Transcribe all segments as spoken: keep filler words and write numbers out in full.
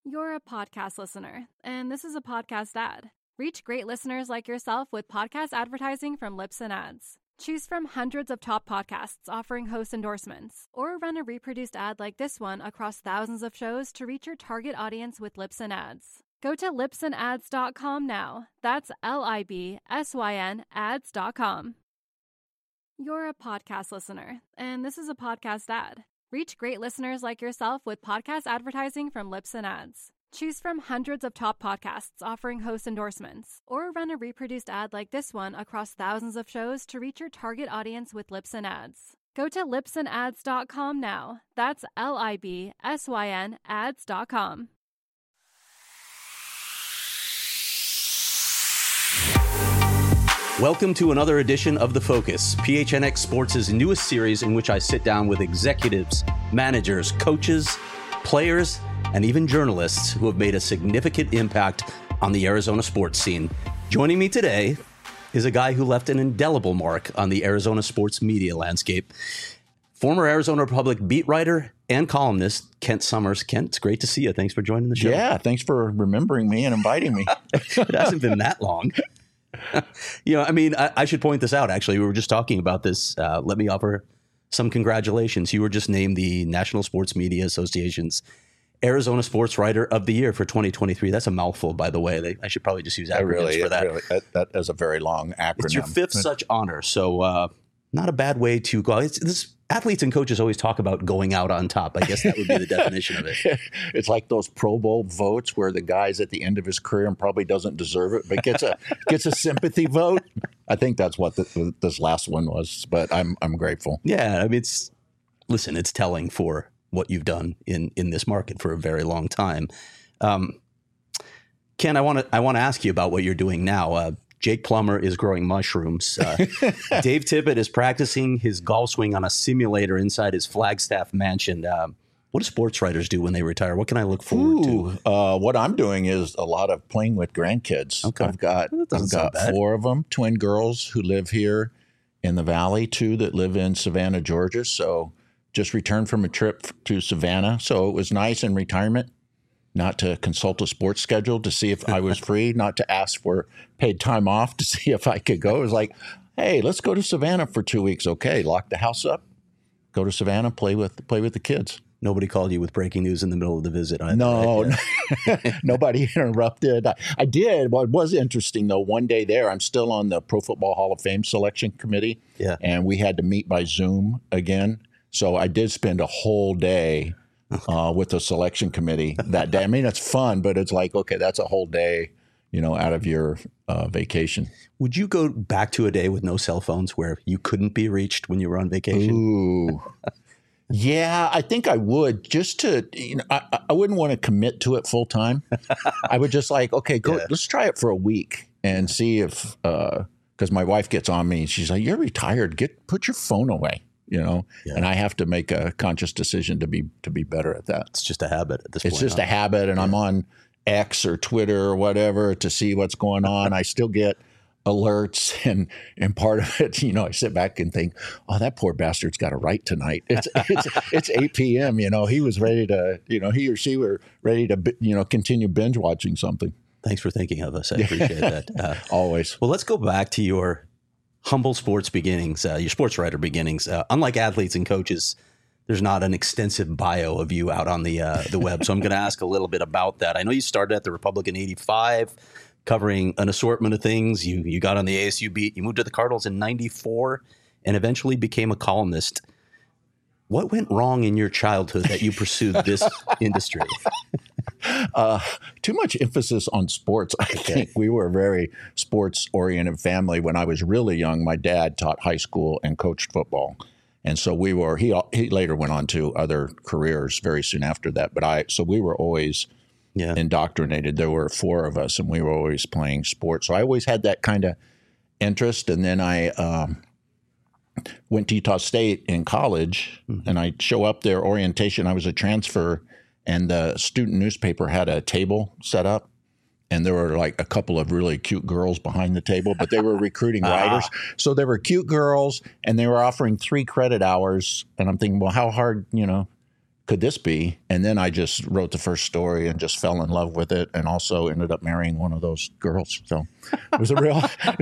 You're a podcast listener, and this is a podcast ad. Reach great listeners like yourself with podcast advertising from Libsyn Ads. Choose from hundreds of top podcasts offering host endorsements, or run a reproduced ad like this one across thousands of shows to reach your target audience with Libsyn Ads. Go to libsyn ads dot com now. That's L I B S Y N ads dot com. You're a podcast listener, and this is a podcast ad. Reach great listeners like yourself with podcast advertising from Libsyn Ads. Choose from hundreds of top podcasts offering host endorsements, or run a reproduced ad like this one across thousands of shows to reach your target audience with Libsyn Ads. Go to libsyn ads dot com now. That's L I B S Y N ads dot com. Welcome to another edition of The Focus, P H N X Sports' newest series in which I sit down with executives, managers, coaches, players, and even journalists who have made a significant impact on the Arizona sports scene. Joining me today is a guy who left an indelible mark on the Arizona sports media landscape. Former Arizona Republic beat writer and columnist Kent Summers. Kent, it's great to see you. Thanks for joining the show. Yeah, thanks for remembering me and inviting me. It hasn't been that long. You know, I mean, I, I should point this out, actually. We were just talking about this. Uh, let me offer some congratulations. You were just named the National Sports Media Association's Arizona Sports Writer of the Year for twenty twenty-three. That's a mouthful, by the way. They, I should probably just use acronyms really, for that. Really, that. That is a very long acronym. It's your fifth such honor, so uh, not a bad way to go. It's, this, athletes and coaches always talk about going out on top. I guess that would be the definition of it. It's like those Pro Bowl votes where the guy's at the end of his career and probably doesn't deserve it, but gets a gets a sympathy vote. I think that's what the, this last one was, but I'm I'm grateful. Yeah, I mean, it's listen, it's telling for what you've done in in this market for a very long time. Um, Ken, I want to I want to ask you about what you're doing now. Uh, Jake Plummer is growing mushrooms. Uh, Dave Tippett is practicing his golf swing on a simulator inside his Flagstaff mansion. Um, what do sports writers do when they retire? What can I look forward Ooh, to? Uh, what I'm doing is a lot of playing with grandkids. Okay. I've got I've got four of them, twin girls who live here in the Valley, two that live in Savannah, Georgia. So just returned from a trip to Savannah. So it was nice in retirement not to consult a sports schedule to see if I was free, not to ask for paid time off to see if I could go. It was like, hey, let's go to Savannah for two weeks. Okay, lock the house up, go to Savannah, play with play with the kids. Nobody called you with breaking news in the middle of the visit. Either, no, right? Yeah. Nobody interrupted. I, I did. What was interesting, though, one day there, I'm still on the Pro Football Hall of Fame selection committee, yeah. and we had to meet by Zoom again. So I did spend a whole day uh, with the selection committee that day. I mean, it's fun, but it's like, okay, that's a whole day, you know, out of your uh, vacation. Would you go back to a day with no cell phones where you couldn't be reached when you were on vacation? Ooh. Yeah, I think I would just to, you know, I, I wouldn't want to commit to it full time. I would just like, okay, go, yeah. let's try it for a week and see if, uh, because my wife gets on me. She's like, you're retired. Get, put your phone away, you know, yeah. and I have to make a conscious decision to be, to be better at that. It's just a habit at this it's point. It's just huh? a habit. And yeah. I'm on X or Twitter or whatever to see what's going on. I still get alerts and and part of it, you know, I sit back and think, oh, that poor bastard's got a write tonight. It's it's it's eight p.m. You know, he was ready to, you know, he or she were ready to, you know, continue binge watching something. Thanks for thinking of us. I appreciate that. Uh, Always. Well, let's go back to your humble sports beginnings, uh, your sports writer beginnings. Uh, unlike athletes and coaches, there's not an extensive bio of you out on the uh, the web. So I'm going to ask a little bit about that. I know you started at the Republic in eighty-five. Covering an assortment of things. You you got on the A S U beat. You moved to the Cardinals in ninety-four and eventually became a columnist. What went wrong in your childhood that you pursued this industry? Uh, too much emphasis on sports. I okay. think we were a very sports-oriented family. When I was really young, my dad taught high school and coached football. And so we were, he, he later went on to other careers very soon after that. But I, so we were always Yeah. indoctrinated. There were four of us, and we were always playing sports. So I always had that kind of interest. And then I um, went to Utah State in college, mm-hmm. and I'd show up there, orientation. I was a transfer, and the student newspaper had a table set up, and there were like a couple of really cute girls behind the table, but they were recruiting writers. So there were cute girls, and they were offering three credit hours. And I'm thinking, well, how hard, you know, could this be? And then I just wrote the first story and just fell in love with it, and also ended up marrying one of those girls. So it was a real,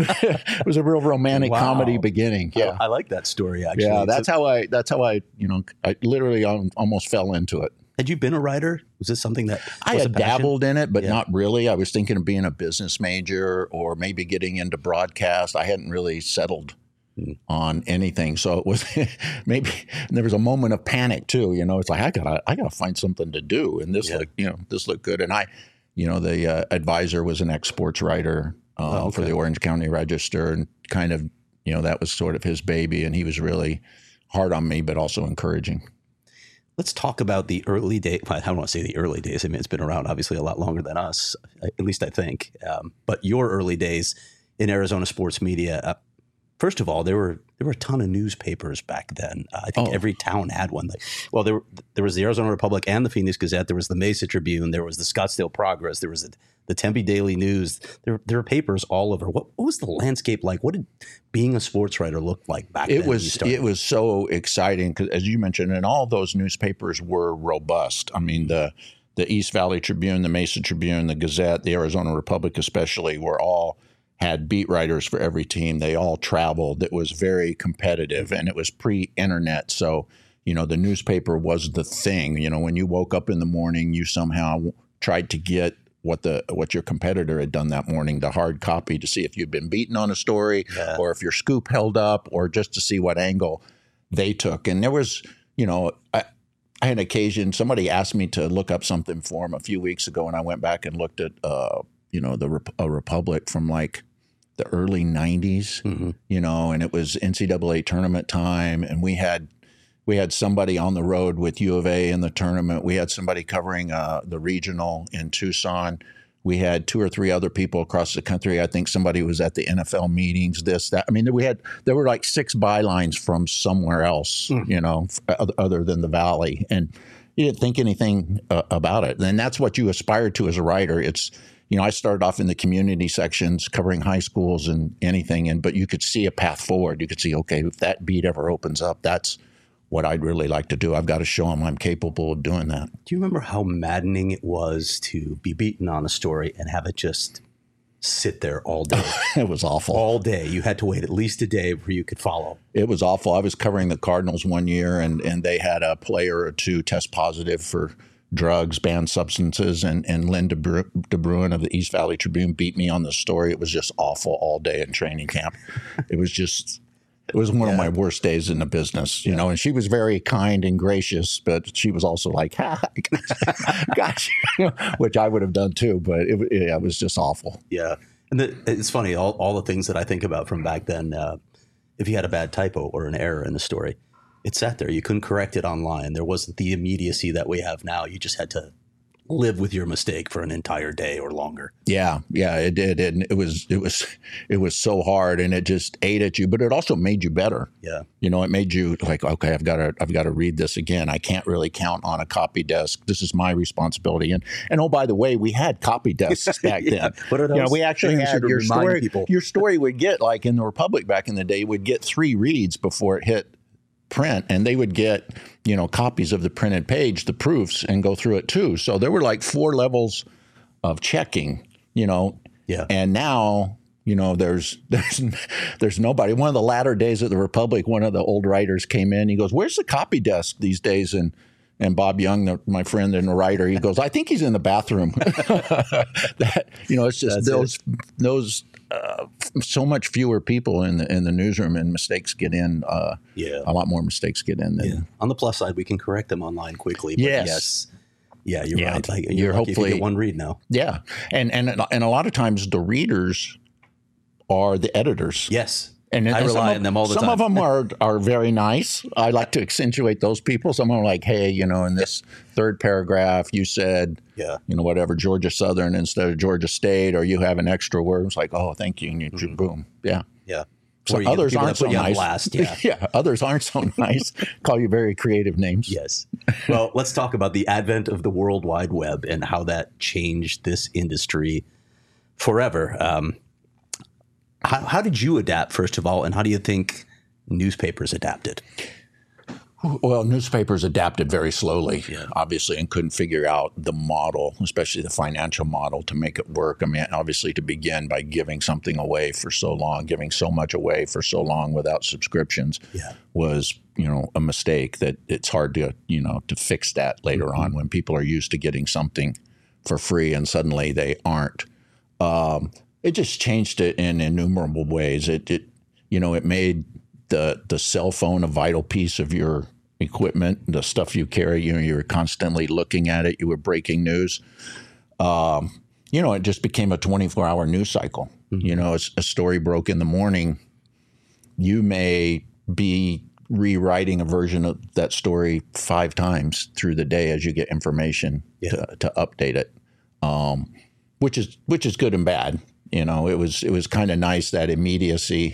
it was a real romantic Wow. comedy beginning. Yeah, I, I like that story. Actually, yeah. That's So- how I. That's how I. You know, I literally um, almost fell into it. Had you been a writer? Was this something that I was had a passion? dabbled in it, but Yeah. not really. I was thinking of being a business major or maybe getting into broadcast. I hadn't really settled Mm. on anything, so it was maybe and there was a moment of panic too. You know, it's like I gotta, I gotta find something to do, and this Yeah. looked, you know, this looked good. And I, you know, the uh, advisor was an ex-sports writer um, Oh, okay. for the Orange County Register, and kind of, you know, that was sort of his baby, and he was really hard on me, but also encouraging. Let's talk about the early days. I don't want to say the early days. I mean, it's been around obviously a lot longer than us, at least I think. Um, but your early days in Arizona sports media. Uh, first of all, there were there were a ton of newspapers back then. Uh, I think Oh. every town had one. Like, well, there were, there was the Arizona Republic and the Phoenix Gazette. There was the Mesa Tribune. There was the Scottsdale Progress. There was the, the Tempe Daily News. There there were papers all over. What, what was the landscape like? What did being a sports writer look like back then? It when you was started? it was so exciting because, as you mentioned, and all those newspapers were robust. I mean, the the East Valley Tribune, the Mesa Tribune, the Gazette, the Arizona Republic, especially, were all had beat writers for every team. They all traveled. It was very competitive, and it was pre-internet, so you know the newspaper was the thing. You know, when you woke up in the morning, you somehow tried to get what the what your competitor had done that morning, the hard copy, to see if you'd been beaten on a story, Yeah. or if your scoop held up, or just to see what angle they took. And there was, you know, I, I had an occasion. Somebody asked me to look up something for them a few weeks ago, and I went back and looked at, uh, you know, the Rep- a Republic from like the early nineties, Mhm. you know, and it was N C double A tournament time, and we had. We had somebody on the road with U of A in the tournament. We had somebody covering uh, the regional in Tucson. We had two or three other people across the country. I think somebody was at the N F L meetings, this, that. I mean, we had there were like six bylines from somewhere else, Mm. you know, f- other than the Valley. And you didn't think anything uh, about it. And that's what you aspire to as a writer. It's, you know, I started off in the community sections covering high schools and anything. And but you could see a path forward. You could see, okay, if that beat ever opens up, that's what I'd really like to do. I've got to show them I'm capable of doing that. Do you remember how maddening it was to be beaten on a story and have it just sit there all day? It was awful. all day. You had to wait at least a day before you could follow. It was awful. I was covering the Cardinals one year, and, and they had a player or two test positive for drugs, banned substances, and, and Lynn DeBru- DeBruin of the East Valley Tribune beat me on the story. It was just awful all day in training camp. It was just... It was one Yeah. of my worst days in the business, you know, and she was very kind and gracious, but she was also like, ha, got you, which I would have done too, but it, yeah, it was just awful. Yeah. And the, it's funny, all, all the things that I think about from back then, uh, if you had a bad typo or an error in the story, it sat there. You couldn't correct it online. There wasn't the immediacy that we have now. You just had to live with your mistake for an entire day or longer. Yeah, yeah, it did. And it was, it was, it was so hard, and it just ate at you, but it also made you better. Yeah. You know, it made you like, okay, I've got to, I've got to read this again. I can't really count on a copy desk. This is my responsibility. And, and oh, by the way, we had copy desks back Yeah. then. What are You know, those we actually things had to your remind story. people? Your story would get, like in the Republic back in the day, would get three reads before it hit print, and they would get, you know, copies of the printed page, the proofs, and go through it too. So there were like four levels of checking, you know. Yeah. And now, you know, there's there's there's nobody. One of the latter days of the Republic, one of the old writers came in. He goes, "Where's the copy desk these days?" And and Bob Young, the, my friend and the writer, he goes, "I think he's in the bathroom." That, you know, it's just That's those those uh, so much fewer people in the in the newsroom, and mistakes get in. Uh, Yeah. a lot more mistakes get in than. Yeah. On the plus side, we can correct them online quickly. But Yes. yes. Yeah, you're Yeah. right. Like, you're, You're lucky if you hopefully- get one read now. Yeah, and and and a lot of times the readers are the editors. Yes. And, I and some rely of- on them all the some time. of them are are very nice. I like to accentuate those people. Some are like, hey, you know, in this third paragraph, you said, Yeah. you know, whatever, Georgia Southern instead of Georgia State, or you have an extra word. It's like, oh, thank you, and you Mm-hmm. boom, yeah. Yeah. So Or you get the others people aren't that put so you on nice. blast. Yeah. yeah, others aren't so nice. Call you very creative names. Yes. Well, let's talk about the advent of the World Wide Web and how that changed this industry forever. Um, how, how did you adapt, first of all, and how do you think newspapers adapted? Well, newspapers adapted very slowly, Yeah. obviously, and couldn't figure out the model, especially the financial model, to make it work. I mean, obviously, to begin by giving something away for so long, giving so much away for so long without subscriptions Yeah. was, you know, a mistake that it's hard to, you know, to fix that later Mm-hmm. on when people are used to getting something for free and suddenly they aren't. Um, it just changed it in innumerable ways. It, it you know, it made the the cell phone a vital piece of your equipment, the stuff you carry. You know, you were constantly looking at it. You were breaking news. Um, you know, it just became a twenty-four hour news cycle. Mm-hmm. You know, as a story broke in the morning, you may be rewriting a version of that story five times through the day as you get information Yeah. to, to update it, um, which is which is good and bad. You know, it was it was kind of nice, that immediacy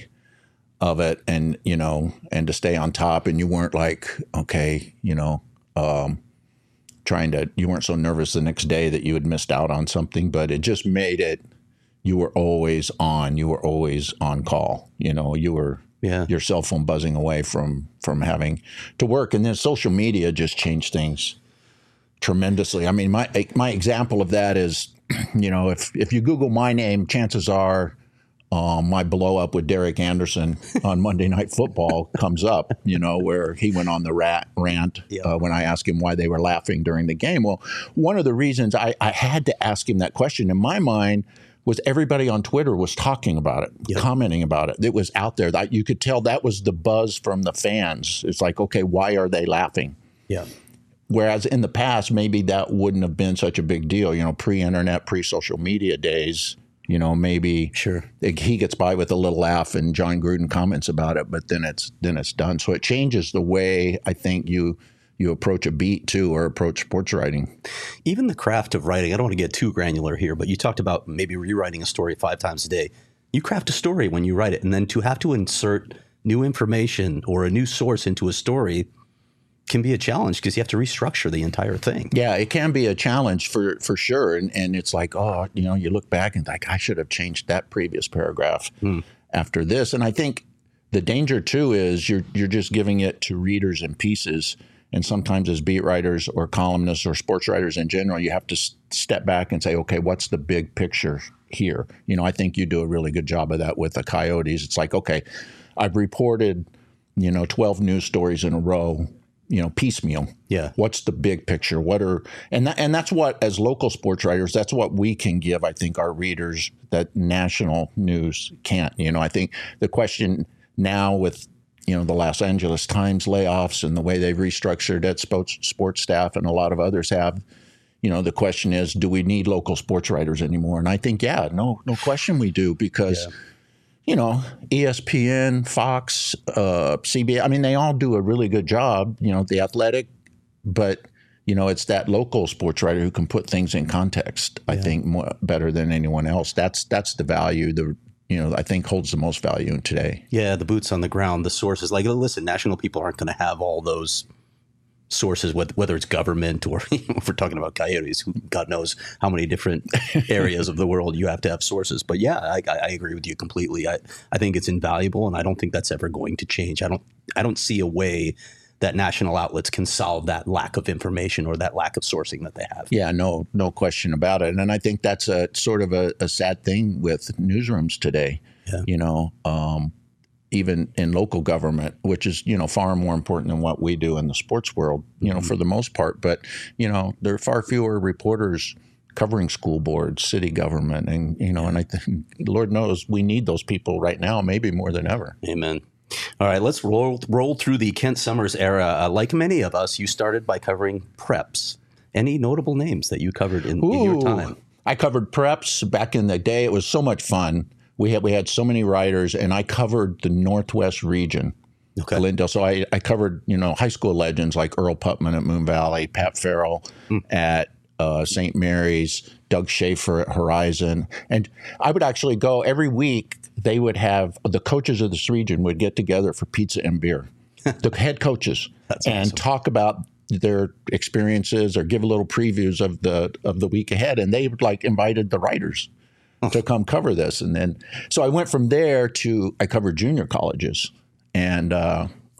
of it, and you know, and to stay on top, and you weren't like, okay, you know, um, trying to, you weren't so nervous the next day that you had missed out on something, but it just made it, you were always on, you were always on call, you know, you were, Yeah. your cell phone buzzing away from from having to work. And then social media just changed things tremendously. I mean, my my example of that is, you know, if if you Google my name, chances are um, my blow up with Derek Anderson on Monday Night Football comes up, you know, where he went on the rat rant Yeah. uh, when I asked him why they were laughing during the game. Well, one of the reasons I, I had to ask him that question in my mind was everybody on Twitter was talking about it, Yep. commenting about it. It was out there. That you could tell that was the buzz from the fans. It's like, okay, why are they laughing? Yeah. Whereas in the past, maybe that wouldn't have been such a big deal. You know, pre-internet, pre-social media days, you know, maybe Sure. he gets by with a little laugh and John Gruden comments about it, but then it's then it's done. So it changes the way I think you you approach a beat too, or approach sports writing. Even the craft of writing, I don't want to get too granular here, but you talked about maybe rewriting a story five times a day. You craft a story when you write it, and then to have to insert new information or a new source into a story can be a challenge because you have to restructure the entire thing. Yeah, it can be a challenge for for sure. And and it's like, oh, you know, you look back and like, I should have changed that previous paragraph Hmm. after this. And I think the danger too is you're you're just giving it to readers in pieces. And sometimes as beat writers or columnists or sports writers in general, you have to s- step back and say, okay, what's the big picture here? You know, I think you do a really good job of that with the Coyotes. It's like, okay, I've reported, you know, twelve news stories in a row, you know, piecemeal. Yeah. What's the big picture? What are, and that, and that's what, as local sports writers, that's what we can give, I think, our readers that national news can't. You know, I think the question now with, you know, the Los Angeles Times layoffs and the way they've restructured that sports sports staff, and a lot of others have, you know, the question is, do we need local sports writers anymore? And I think, yeah, no, no question we do, because, Yeah. you know, E S P N, Fox, uh, C B S, I mean, they all do a really good job, you know, The Athletic, but, you know, it's that local sports writer who can put things in context, I think, more, better than anyone else. That's that's the value, the you know, I think holds the most value today. Yeah, the boots on the ground, the sources. Like, listen, national people aren't going to have all those sources, whether it's government or if we're talking about Coyotes, who God knows how many different areas of the world you have to have sources. But yeah, I, I agree with you completely. I, I think it's invaluable, and I don't think that's ever going to change. I don't I don't see a way that national outlets can solve that lack of information or that lack of sourcing that they have. Yeah, no, no question about it. And I think that's a sort of a, a sad thing with newsrooms today. Yeah. You know, um, even in local government, which is, you know, far more important than what we do in the sports world, you know, Mm-hmm. for the most part. But, you know, there are far fewer reporters covering school boards, city government. And, you know, and I think, Lord knows, we need those people right now, maybe more than ever. Amen. All right, let's roll roll through the Kent Summers era. Uh, like many of us, you started by covering preps. Any notable names that you covered in, in your Ooh, time? I covered preps back in the day. It was so much fun. We had we had so many writers, and I covered the Northwest region. Okay. Glendale. So I, I covered, you know, high school legends like Earl Putman at Moon Valley, Pat Farrell Hmm. at uh, Saint Mary's, Doug Schaefer at Horizon. And I would actually go every week. They would have, the coaches of this region would get together for pizza and beer, the head coaches, and awesome. talk about their experiences or give a little previews of the of the week ahead. And they like invited the writers to come cover this. And then, so I went from there to, I covered junior colleges. And uh,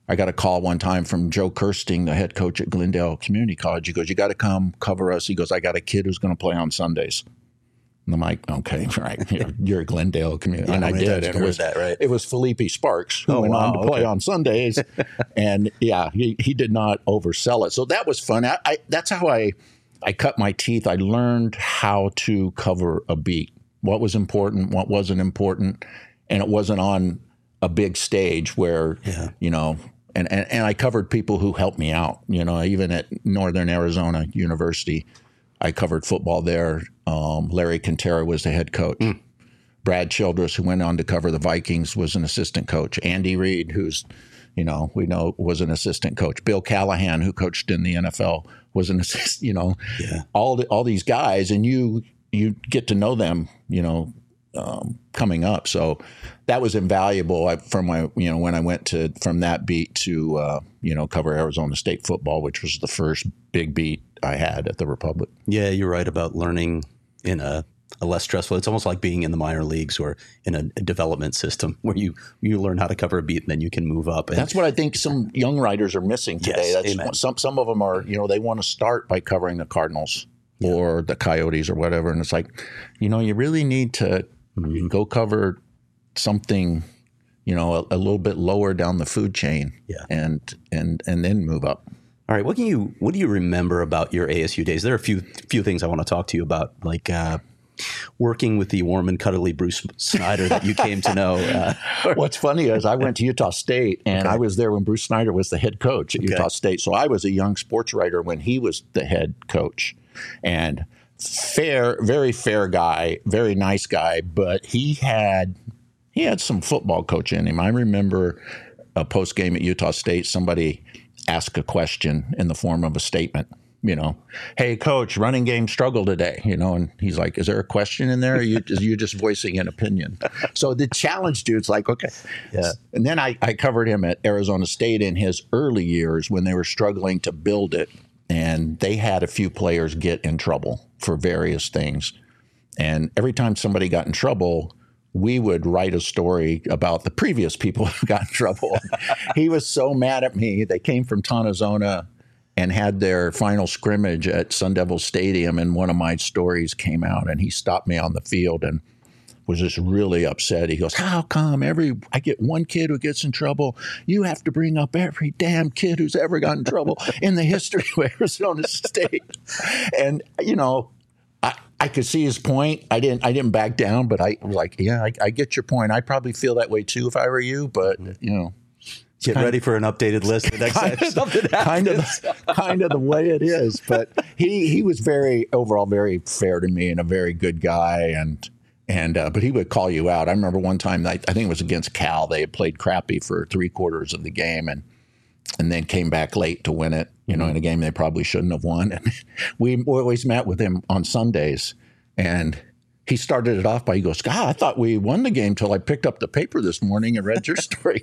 I got a call one time from Joe Kirsting, the head coach at Glendale Community College. He goes, "You got to come cover us." He goes, "I got a kid who's going to play on Sundays." And I'm like, "Okay, right. You're, you're a Glendale Community." Yeah, and I did. And it was that, right? It was Felipe Sparks who oh, went wow, on to play okay. on Sundays. And yeah, he, he did not oversell it. So that was fun. I, I, that's how I, I cut my teeth. I learned how to cover a beat, what was important, what wasn't important. And it wasn't on a big stage where, yeah. you know, and, and, and I covered people who helped me out. You know, even at Northern Arizona University, I covered football there. Um, Larry Quintero was the head coach. Mm. Brad Childress, who went on to cover the Vikings, was an assistant coach. Andy Reid, who's, you know, we know was an assistant coach. Bill Callahan, who coached in the N F L, was an assistant, you know, yeah. all the, all these guys. And you you get to know them, you know, um, coming up. So that was invaluable I, from my, you know, when I went to from that beat to, uh, you know, cover Arizona State football, which was the first big beat I had at the Republic. Yeah, you're right about learning in a, a less stressful. It's almost like being in the minor leagues or in a, a development system where you you learn how to cover a beat and then you can move up. And that's what I think some young writers are missing today. Yes, that's amen. What, some some of them are, you know, they want to start by covering the Cardinals yeah. or the Coyotes or whatever, and it's like, you know, you really need to mm-hmm. go cover something, you know, a, a little bit lower down the food chain, yeah. and and and then move up. All right, what can you what do you remember about your A S U days? There are a few few things I want to talk to you about, like uh, working with the warm and cuddly Bruce Snyder that you came to know. Uh, What's funny is I went to Utah State, and okay. I was there when Bruce Snyder was the head coach at okay. Utah State. So I was a young sports writer when he was the head coach, and fair, very fair guy, very nice guy, but he had he had some football coach in him. I remember a post game at Utah State, somebody asked a question in the form of a statement. You know, "Hey, coach, running game struggle today," you know, and he's like, "Is there a question in there? Or are you, are you just voicing an opinion?" So the challenge dude's like, okay. Yeah. And then I, I covered him at Arizona State in his early years when they were struggling to build it. And they had a few players get in trouble for various things. And every time somebody got in trouble, we would write a story about the previous people who got in trouble. He was so mad at me. They came from Tonazona and had their final scrimmage at Sun Devil Stadium, and one of my stories came out, and he stopped me on the field and was just really upset. He goes, "How come every I get one kid who gets in trouble, you have to bring up every damn kid who's ever gotten in trouble in the history of Arizona State?" And, you know, I, I could see his point. I didn't I didn't back down, but I was like, yeah, I, I get your point. I'd probably feel that way too if I were you, but, you know. Get kind ready of, for an updated list the next time something happens. Kind of, the, kind of the way it is. But he, he was very, overall, very fair to me and a very good guy. And, and uh, but he would call you out. I remember one time, I, I think it was against Cal. They had played crappy for three quarters of the game and and then came back late to win it, you know, in a game they probably shouldn't have won. And we always met with him on Sundays. And he started it off by, he goes, "God, I thought we won the game till I picked up the paper this morning and read your story."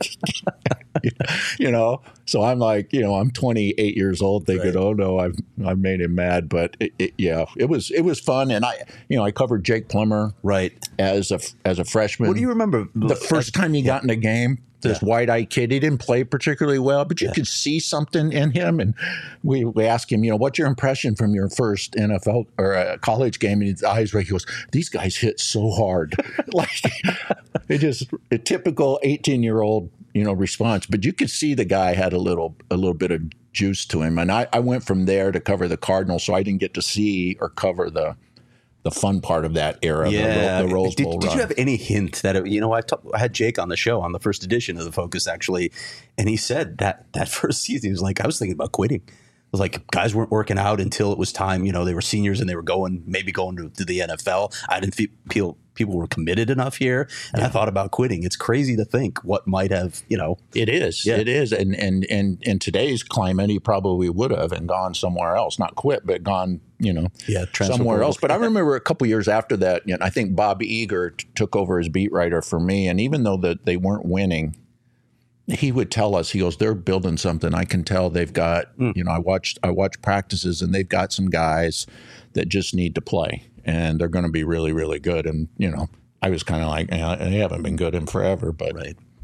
You know, so I'm like, you know, I'm twenty-eight years old thinking, right. oh no, I've I've made him mad. But it, it, yeah, it was it was fun, and I, you know, I covered Jake Plummer right as a as a freshman. What do you remember the first time he yeah. got in a game? This yeah. wide-eyed kid, he didn't play particularly well, but you yeah. could see something in him. And we, we asked him, you know, what's your impression from your first N F L or uh, college game? And his eyes were, he goes, "These guys hit so hard." Like, it just a typical eighteen-year-old, you know, response. But you could see the guy had a little a little bit of juice to him. And I, I went from there to cover the Cardinals, so I didn't get to see or cover the the fun part of that era, yeah. the, the Rose Bowl Did, did you have any hint that, it, you know, I, talk, I had Jake on the show on the first edition of The Focus, actually, and he said that that first season, he was like, I was thinking about quitting. It was like guys weren't working out until it was time. You know, they were seniors and they were going, maybe going to, to the N F L. I didn't feel people were committed enough here. And yeah. I thought about quitting. It's crazy to think what might have, you know. It is. Yeah. It is. And, and, and in today's climate, he probably would have and gone somewhere else, not quit, but gone, you know, yeah, somewhere else. But I remember a couple years after that, you know, I think Bob Eager t- took over as beat writer for me. And even though that they weren't winning, he would tell us, he goes, "They're building something. I can tell they've got, mm. you know, I watched, I watched practices and they've got some guys that just need to play and they're going to be really, really good." And, you know, I was kind of like, eh, they haven't been good in forever, but right.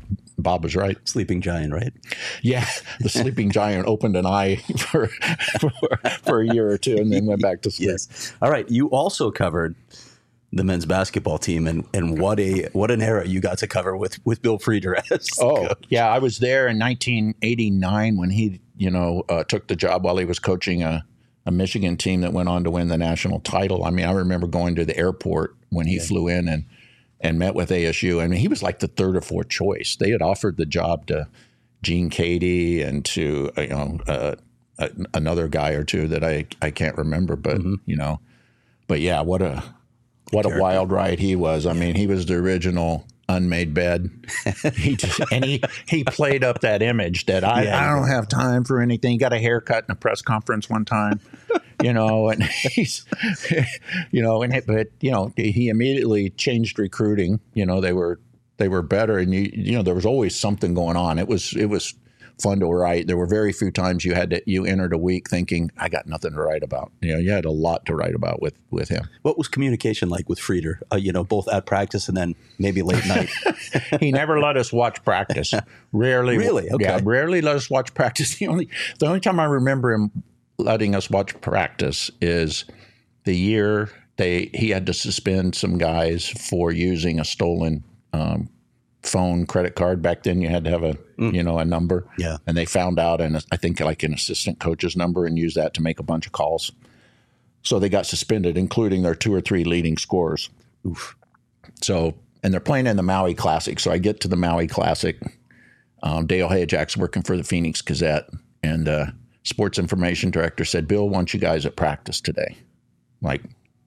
Bob was right. Sleeping Giant, right? Yeah, the Sleeping Giant opened an eye for, for for a year or two and then went back to sleep. Yes. All right. You also covered the men's basketball team, and, and what a what an era you got to cover with, with Bill Frieder as Oh, coach. yeah. I was there in nineteen eighty-nine when he, you know, uh, took the job while he was coaching a, a Michigan team that went on to win the national title. I mean, I remember going to the airport when he yeah. flew in and and met with A S U. I mean, he was like the third or fourth choice. They had offered the job to Gene Cady and to, you know, uh, a, another guy or two that I, I can't remember. But, mm-hmm. you know, but yeah, what a what a wild ride he was. I mean, he was the original unmade bed. he just, and he, he played up that image that I, yeah, I don't have time for anything. He got a haircut in a press conference one time. You know, and he's, you know, and but you know, he immediately changed recruiting. You know, they were they were better, and you you know, there was always something going on. It was it was fun to write. There were very few times you had to you entered a week thinking I got nothing to write about. You know, you had a lot to write about with with him. What was communication like with Frieder? Uh, you know, both at practice and then maybe late night. He never let us watch practice. Rarely, really, okay. Yeah, rarely let us watch practice. The only the only time I remember him letting us watch practice is the year they he had to suspend some guys for using a stolen um, phone credit card. Back then you had to have a mm. you know a number, yeah, and they found out, and I think like an assistant coach's number, and used that to make a bunch of calls. So they got suspended, including their two or three leading scorers. Oof. So and they're playing in the Maui Classic. So I get to the Maui Classic. Um, Dale Hayajak's working for the Phoenix Gazette, and uh, sports information director said, Bill wants you guys at practice today. Like,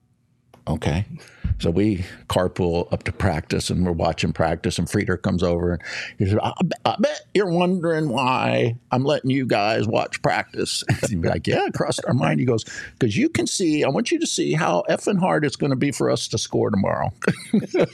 okay. So we carpool up to practice, and we're watching practice, and Frieder comes over, and he said, I, I bet you're wondering why I'm letting you guys watch practice. He'd be like, yeah, it crossed our mind. He goes, because you can see, I want you to see how effing hard it's going to be for us to score tomorrow. You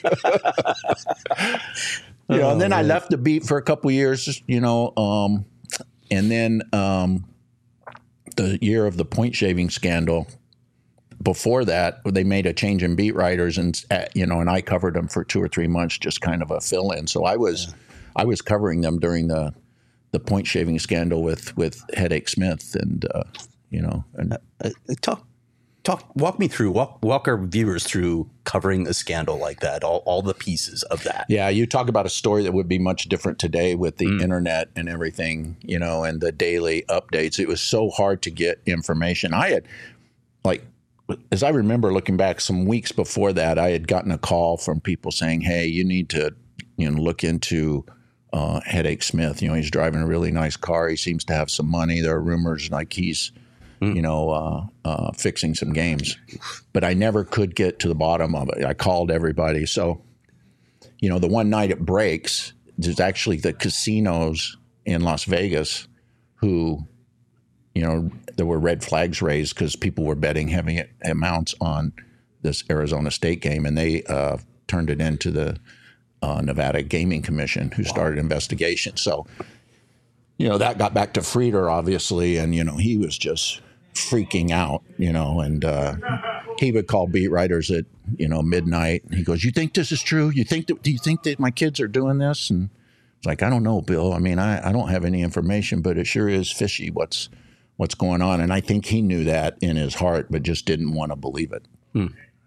know, oh, and then man. I left the beat for a couple of years, you know, um, and then um, the year of the point shaving scandal. Before that, they made a change in beat writers, and you know, and I covered them for two or three months, just kind of a fill-in. So I was, yeah. I was covering them during the, the point shaving scandal with with Headache Smith, and uh, you know, and uh, talk, talk, walk me through, walk, walk our viewers through covering a scandal like that, all all the pieces of that. Yeah, you talk about a story that would be much different today with the mm. internet and everything, you know, and the daily updates. It was so hard to get information. I had, like. As I remember looking back some weeks before that, I had gotten a call from people saying, hey, you need to, you know, look into uh, Headache Smith. You know, he's driving a really nice car. He seems to have some money. There are rumors like he's, mm. you know, uh, uh, fixing some games. But I never could get to the bottom of it. I called everybody. So, you know, the one night it breaks, there's actually the casinos in Las Vegas who, you know, there were red flags raised because people were betting heavy amounts on this Arizona State game, and they uh, turned it into the uh, Nevada Gaming Commission, who wow. started an investigation. So, you know, that got back to Frieder, obviously, and, you know, he was just freaking out, you know, and uh, he would call beat writers at, you know, midnight. He goes, you think this is true? You think that, do you think that my kids are doing this? And it's like, I don't know, Bill. I mean, I, I don't have any information, but it sure is fishy what's what's going on. And I think he knew that in his heart, but just didn't want to believe it. Hmm.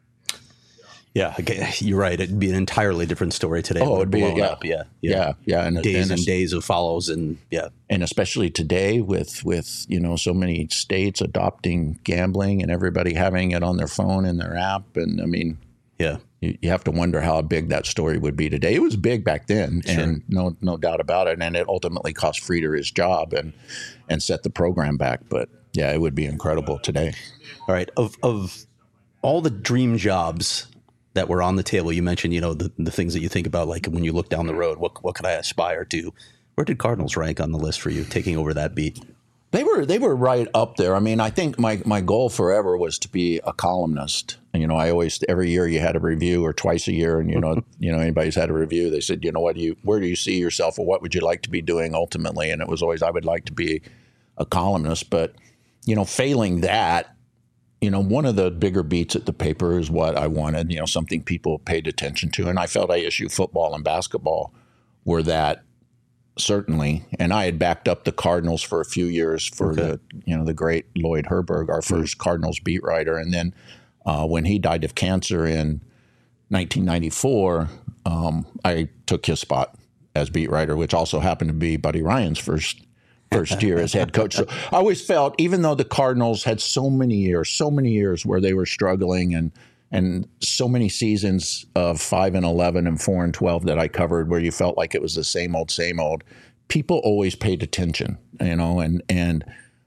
Yeah, okay. You're right. It'd be an entirely different story today. Oh, it'd be, yeah. Up. yeah, yeah, yeah, yeah. And days and, and days of follows, and yeah, and especially today with with you know so many states adopting gambling and everybody having it on their phone and their app, and I mean, yeah, you, you have to wonder how big that story would be today. It was big back then, sure. and no no doubt about it. And it ultimately cost Frieder his job and and set the program back. But yeah, it would be incredible today. All right, of of all the dream jobs that were on the table, you mentioned, you know, the, the things that you think about, like when you look down the road, what what could I aspire to? Where did Cardinals rank on the list for you, taking over that beat? They were they were right up there. I mean, I think my, my goal forever was to be a columnist. And, you know, I always, every year you had a review, or twice a year, and, you know, you know, anybody's had a review, they said, you know, what do you, where do you see yourself, or what would you like to be doing ultimately? And it was always, I would like to be a columnist. But, you know, failing that, you know, one of the bigger beats at the paper is what I wanted, you know, something people paid attention to. And I felt A S U football and basketball were that certainly. And I had backed up the Cardinals for a few years for okay. the, you know, the great Lloyd Herberg, our first mm-hmm. Cardinals beat writer. And then uh, when he died of cancer in nineteen ninety-four, um, I took his spot as beat writer, which also happened to be Buddy Ryan's first first year as head coach. So I always felt, even though the Cardinals had so many years, so many years where they were struggling and and so many seasons of five and eleven and four and twelve that I covered where you felt like it was the same old, same old, people always paid attention, you know, and and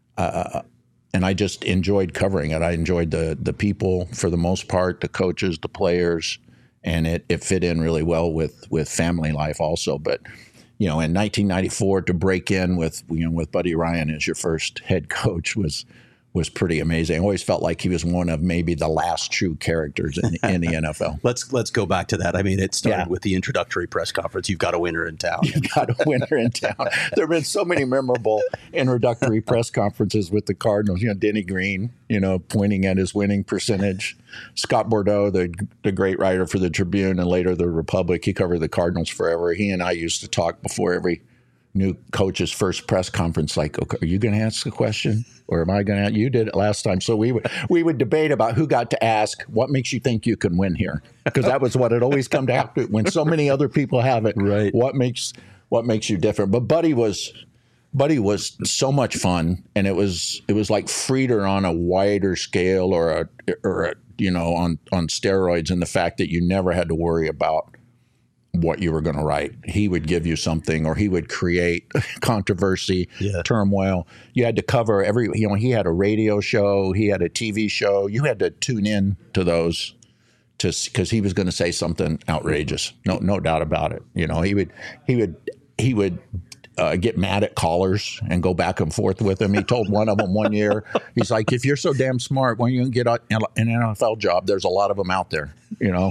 uh, and I just enjoyed covering it. I enjoyed the the people for the most part, the coaches, the players, and it, it fit in really well with with family life also. But you know, in nineteen ninety-four, to break in with you know with Buddy Ryan as your first head coach was was pretty amazing. I always felt like he was one of maybe the last true characters in, in the N F L. let's let's go back to that. I mean, it started yeah. with the introductory press conference. You've got a winner in town. You've got a winner in town. There have been so many memorable introductory press conferences with the Cardinals. You know, Denny Green, you know, pointing at his winning percentage. Scott Bordeaux, the the great writer for the Tribune and later the Republic, he covered the Cardinals forever. He and I used to talk before every new coach's first press conference, like, okay, are you going to ask a question or am I going to? You did it last time. So we would, we would debate about who got to ask, what makes you think you can win here? Because that was what it always come down to when so many other people have it. Right. What makes, what makes you different? But Buddy was, Buddy was so much fun, and it was, it was like Frieder on a wider scale or a, or a, you know, on, on steroids, in the fact that you never had to worry about what you were going to write. He would give you something, or he would create controversy, yeah. turmoil. You had to cover every, you know, he had a radio show, he had a T V show. You had to tune in to those to, because he was going to say something outrageous. No, no doubt about it. You know, he would, he would, he would uh, get mad at callers and go back and forth with them. He told one of them one year, he's like, if you're so damn smart, why don't you get an N F L job? There's a lot of them out there, you know?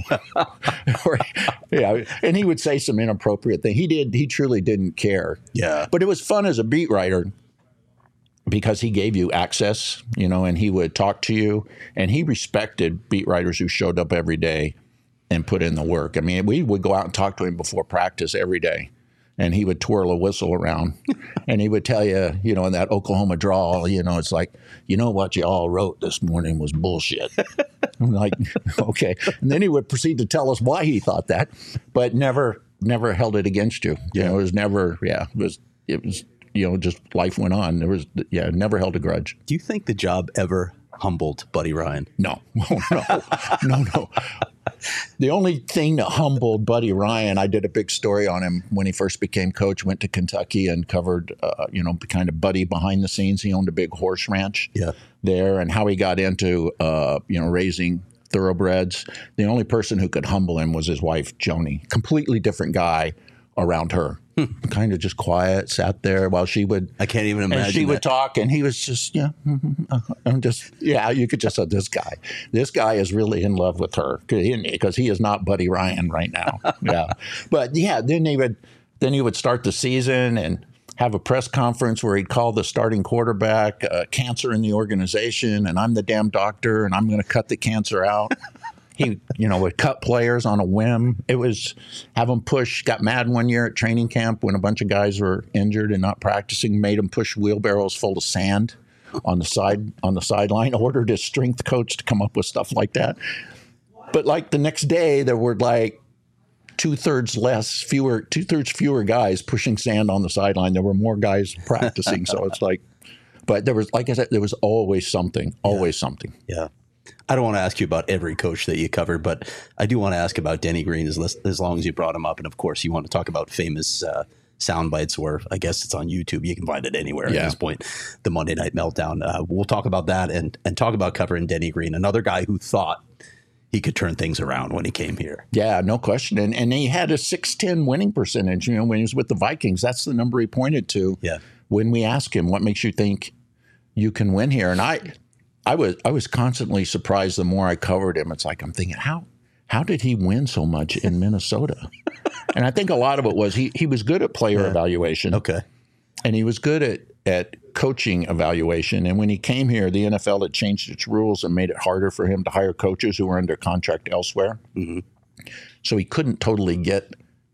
or, yeah. And he would say some inappropriate thing. He did, he truly didn't care. Yeah. But it was fun as a beat writer because he gave you access, you know, and he would talk to you, and he respected beat writers who showed up every day and put in the work. I mean, we would go out and talk to him before practice every day. And he would twirl a whistle around, and he would tell you, you know, in that Oklahoma drawl, you know, it's like, you know, what you all wrote this morning was bullshit. I'm like, okay. And then he would proceed to tell us why he thought that, but never, never held it against you. You yeah. know, it was never, yeah, it was, it was, you know, just life went on. There was, yeah, never held a grudge. Do you think the job ever humbled Buddy Ryan? No, no, no, no. The only thing that humbled Buddy Ryan, I did a big story on him when he first became coach, went to Kentucky and covered, uh, you know, kind of Buddy behind the scenes. He owned a big horse ranch yeah. there, and how he got into, uh, you know, raising thoroughbreds. The only person who could humble him was his wife, Joni. Completely different guy around her. Kind of just quiet, sat there while she would. I can't even imagine. And she that. would talk, and he was just, yeah, mm-hmm, uh, I'm just, yeah. You could just say, this guy, this guy is really in love with her because he, he is not Buddy Ryan right now. Yeah, but yeah, then he would, then he would start the season and have a press conference where he'd call the starting quarterback uh, cancer in the organization, and I'm the damn doctor, and I'm going to cut the cancer out. He, you know, would cut players on a whim. It was have them push. Got mad one year at training camp when a bunch of guys were injured and not practicing. Made them push wheelbarrows full of sand on the side on the sideline. Ordered his strength coach to come up with stuff like that. But like the next day, there were like two thirds less, fewer, two thirds fewer guys pushing sand on the sideline. There were more guys practicing. So it's like, but there was, like I said, there was always something. Always yeah. something. Yeah. I don't want to ask you about every coach that you covered, but I do want to ask about Denny Green as, as long as you brought him up. And of course, you want to talk about famous uh, sound bites where I guess it's on YouTube. You can find it anywhere yeah. at this point, the Monday Night Meltdown. Uh, we'll talk about that and, and talk about covering Denny Green, another guy who thought he could turn things around when he came here. Yeah, no question. And and he had a six ten winning percentage, you know, when he was with the Vikings. That's the number he pointed to yeah. when we asked him, what makes you think you can win here? And I... I was I was constantly surprised the more I covered him. It's like I'm thinking, how how did he win so much in Minnesota? And I think a lot of it was he he was good at player yeah. evaluation. Okay. And he was good at, at coaching evaluation. And when he came here, the N F L had changed its rules and made it harder for him to hire coaches who were under contract elsewhere. Mm-hmm. So he couldn't totally get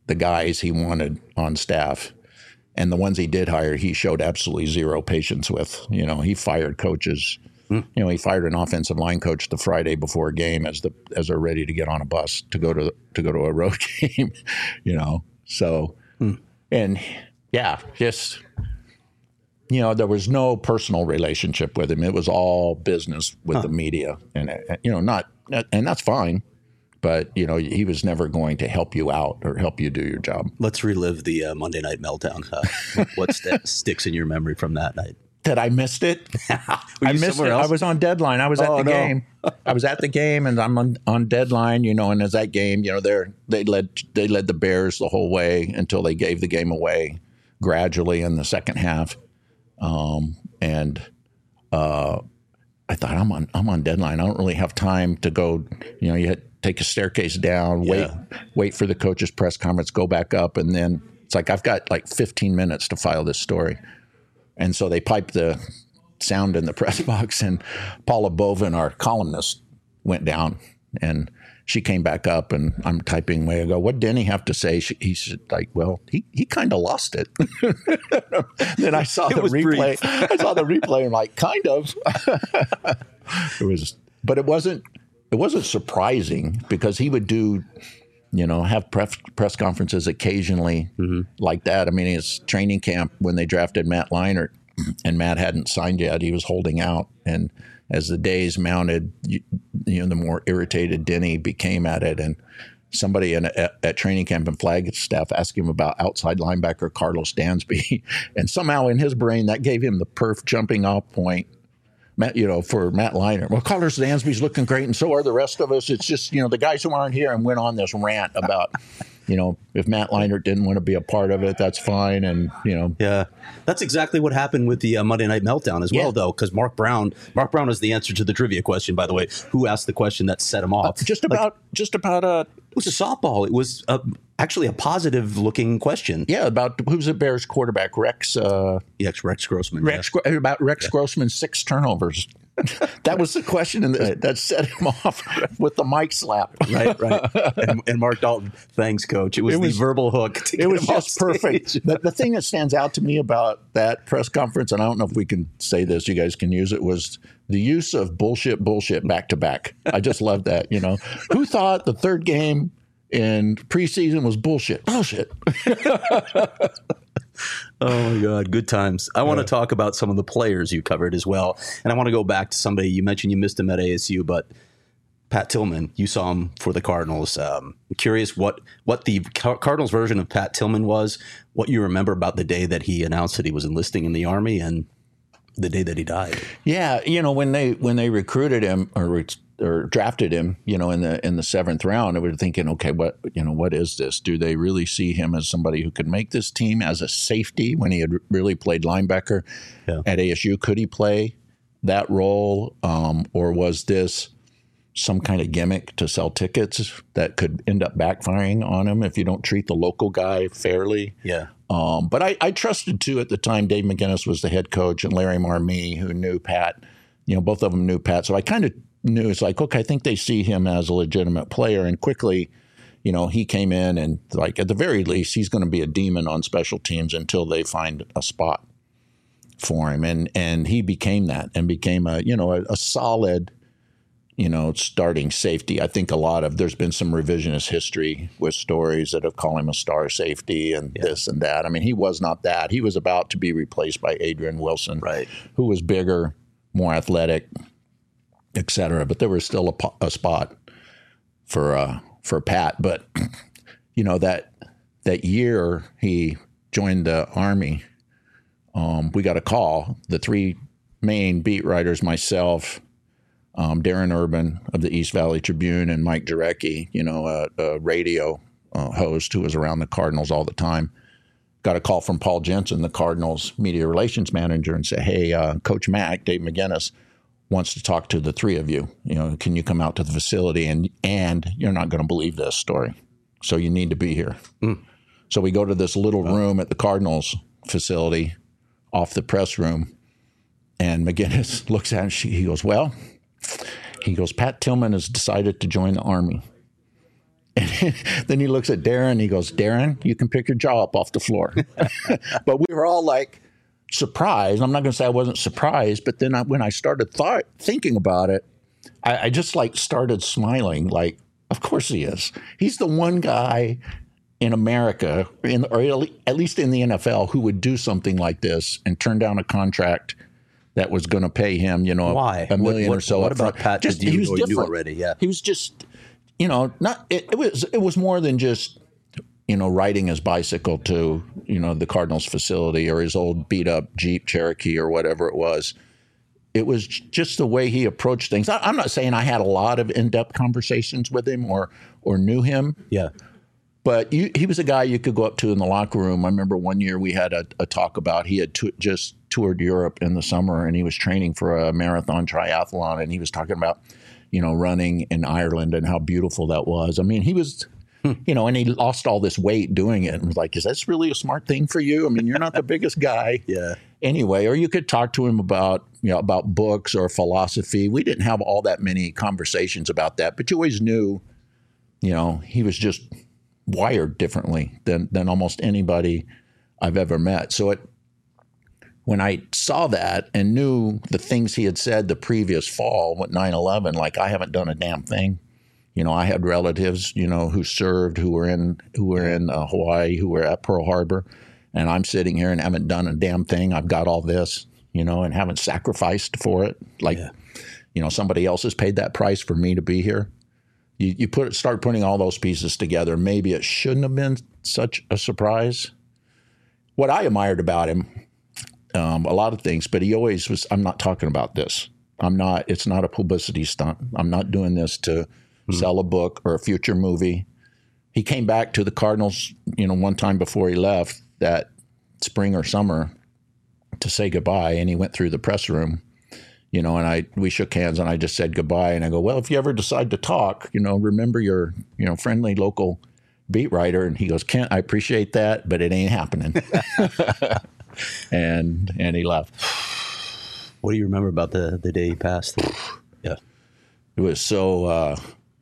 the guys he wanted on staff. And the ones he did hire, he showed absolutely zero patience with. You know, he fired coaches. Mm. You know, he fired an offensive line coach the Friday before a game as the as they're ready to get on a bus to go to to go to a road game. You know, so mm. and yeah, just you know, there was no personal relationship with him. It was all business with huh. the media, and you know, not and that's fine. But, you know, he was never going to help you out or help you do your job. Let's relive the uh, Monday Night Meltdown. Uh, what st- sticks in your memory from that night? That I missed it. I missed it. Else? I was on deadline. I was oh, at the no. game. I was at the game, and I'm on, on deadline. You know, and as that game, you know, they they led they led the Bears the whole way until they gave the game away gradually in the second half. Um, and uh, I thought I'm on I'm on deadline. I don't really have time to go. You know, you had. Take a staircase down, wait, yeah. wait for the coach's press conference, go back up, and then it's like I've got like fifteen minutes to file this story. And so they piped the sound in the press box, and Paula Bovin, our columnist, went down, and she came back up, and I'm typing away. I go, "What did Denny have to say?" She, he said, "Like, well, he he kind of lost it." Then I saw the replay. I saw the replay, and like, kind of. It was, but it wasn't. It wasn't surprising because he would do, you know, have press, press conferences occasionally mm-hmm. like that. I mean, his training camp when they drafted Matt Leinart and Matt hadn't signed yet, he was holding out. And as the days mounted, you, you know, the more irritated Denny became at it. And somebody in, at, at training camp and Flagstaff asked him about outside linebacker Carlos Dansby. And somehow in his brain, that gave him the perf jumping off point. Matt, you know, for Matt Leinart. Well, Carlos Dansby's looking great, and so are the rest of us. It's just, you know, the guys who aren't here and went on this rant about, you know, if Matt Leinart didn't want to be a part of it, that's fine. And, you know. Yeah, that's exactly what happened with the uh, Monday Night Meltdown as well, yeah. though, because Mark Brown, Mark Brown is the answer to the trivia question, by the way. Who asked the question that set him off? Uh, just about, like, just about uh it was a softball. It was uh, actually a positive looking question. Yeah, about who's the Bears quarterback, Rex. Uh, yes, Rex Grossman. Rex yeah. about Rex yeah. Grossman's six turnovers. That was the question and right. that set him off with the mic slap. Right, right. And, and Mark Dalton, thanks, Coach. It was, it was the verbal hook. To it was just perfect. The, the thing that stands out to me about that press conference, and I don't know if we can say this, you guys can use it, was the use of bullshit, bullshit back to back. I just love that. You know, who thought the third game in preseason was bullshit? Bullshit. Oh, my God. Good times. I want to talk about some of the players you covered as well. And I want to go back to somebody you mentioned. You missed him at A S U, but Pat Tillman, you saw him for the Cardinals. Um, I'm curious what, what the Car- Cardinals version of Pat Tillman was, what you remember about the day that he announced that he was enlisting in the Army and the day that he died. Yeah. You know, when they when they recruited him or re- or drafted him, you know, in the in the seventh round, I was thinking, okay, what you know, what is this? Do they really see him as somebody who could make this team as a safety when he had really played linebacker yeah. at A S U? Could he play that role, um, or was this some kind of gimmick to sell tickets that could end up backfiring on him if you don't treat the local guy fairly? Yeah. Um, but I, I trusted too at the time. Dave McGinnis was the head coach, and Larry Marmee, who knew Pat. You know, both of them knew Pat, so I kind of knew it's like, okay, I think they see him as a legitimate player. And quickly, you know, he came in and like at the very least, he's going to be a demon on special teams until they find a spot for him. And and he became that and became a, you know, a, a solid, you know, starting safety. I think a lot of there's been some revisionist history with stories that have called him a star safety and yeah. this and that. I mean, he was not that. He was about to be replaced by Adrian Wilson, right, who was bigger, more athletic, et cetera. But there was still a, a spot for uh, for Pat. But you know that that year he joined the Army, um, we got a call. The three main beat writers, myself, um, Darren Urban of the East Valley Tribune, and Mike Jarecki, you know, a, a radio uh, host who was around the Cardinals all the time, got a call from Paul Jensen, the Cardinals media relations manager, and said, "Hey, uh, Coach Mack, Dave McGinnis, wants to talk to the three of you. You know, can you come out to the facility? And and you're not going to believe this story, so you need to be here." Mm. So we go to this little wow. room at the Cardinals facility, off the press room, and McGinnis looks at it and she, he goes, "Well," he goes, "Pat Tillman has decided to join the Army." And then he looks at Darren and he goes, Darren, you can pick your jaw up off the floor. But we were all like surprised. I'm not going to say I wasn't surprised, but then I, when I started thought, thinking about it, I, I just like started smiling like, of course he is. He's the one guy in America, in, or at least in the N F L, who would do something like this and turn down a contract that was going to pay him, you know, Why? a million what, what, or so. What about Pat? Just, did you, he was or different. you already? Yeah, he was just, you know, not. It, it was. It was more than just, you know, riding his bicycle to, you know, the Cardinals facility or his old beat up Jeep Cherokee or whatever it was. It was just the way he approached things. I, I'm not saying I had a lot of in depth conversations with him or or knew him. Yeah. But you, he was a guy you could go up to in the locker room. I remember one year we had a, a talk about he had t- just toured Europe in the summer and he was training for a marathon triathlon and he was talking about, you know, running in Ireland and how beautiful that was. I mean, he was, hmm. you know, and he lost all this weight doing it and was like, is this really a smart thing for you? I mean, you're not the biggest guy. Yeah. Anyway, or you could talk to him about, you know, about books or philosophy. We didn't have all that many conversations about that, but you always knew, you know, he was just wired differently than than almost anybody I've ever met. So it, when I saw that and knew the things he had said the previous fall with nine eleven, like I haven't done a damn thing. You know, I had relatives, you know, who served, who were in who were in uh, Hawaii, who were at Pearl Harbor, and I'm sitting here and haven't done a damn thing. I've got all this, you know, and haven't sacrificed for it. Like, yeah. you know, somebody else has paid that price for me to be here. You, you put start putting all those pieces together. Maybe it shouldn't have been such a surprise. What I admired about him, um, a lot of things, but he always was, I'm not talking about this. I'm not, it's not a publicity stunt. I'm not doing this to mm-hmm. sell a book or a future movie. He came back to the Cardinals, you know, one time before he left that spring or summer to say goodbye, and he went through the press room. You know, and I we shook hands and I just said goodbye. And I go, well, if you ever decide to talk, you know, remember your, you know, friendly local beat writer. And he goes, Kent, I appreciate that, but it ain't happening. and and he left. What do you remember about the, the day he passed? Yeah. It was so uh,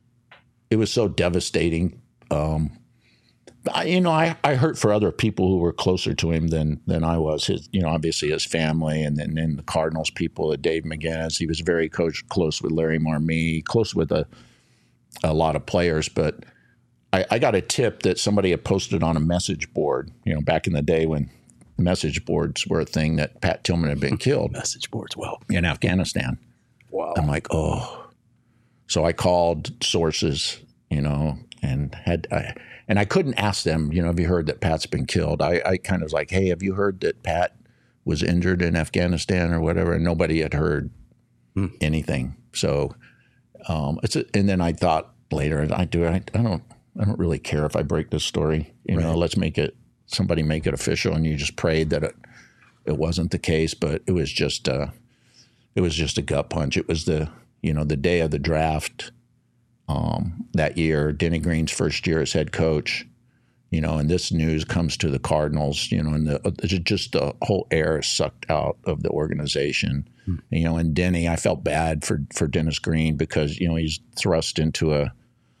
it was so devastating. Um, I, you know, I, I hurt for other people who were closer to him than than I was. His, you know, obviously his family, and then and the Cardinals people, uh, Dave McGinnis. He was very coach, close with Larry Marmee, close with a a lot of players. But I, I got a tip that somebody had posted on a message board. You know, back in the day when message boards were a thing, that Pat Tillman had been killed. Message boards, well, in Afghanistan. Wow. I'm like, oh. So I called sources, you know, and had. I, And I couldn't ask them, you know, have you heard that Pat's been killed? I, I kind of was like, hey, have you heard that Pat was injured in Afghanistan or whatever? And nobody had heard hmm. anything. So um, it's a, and then I thought later, I do, I, I don't, I don't really care if I break this story. You right. know, let's make it, somebody make it official. And you just prayed that it, it wasn't the case, but it was just, uh, it was just a gut punch. It was the, you know, the day of the draft. Um, that year, Denny Green's first year as head coach, you know, and this news comes to the Cardinals, you know, and the, just the whole air is sucked out of the organization, hmm. you know, and Denny, I felt bad for, for Dennis Green because, you know, he's thrust into a,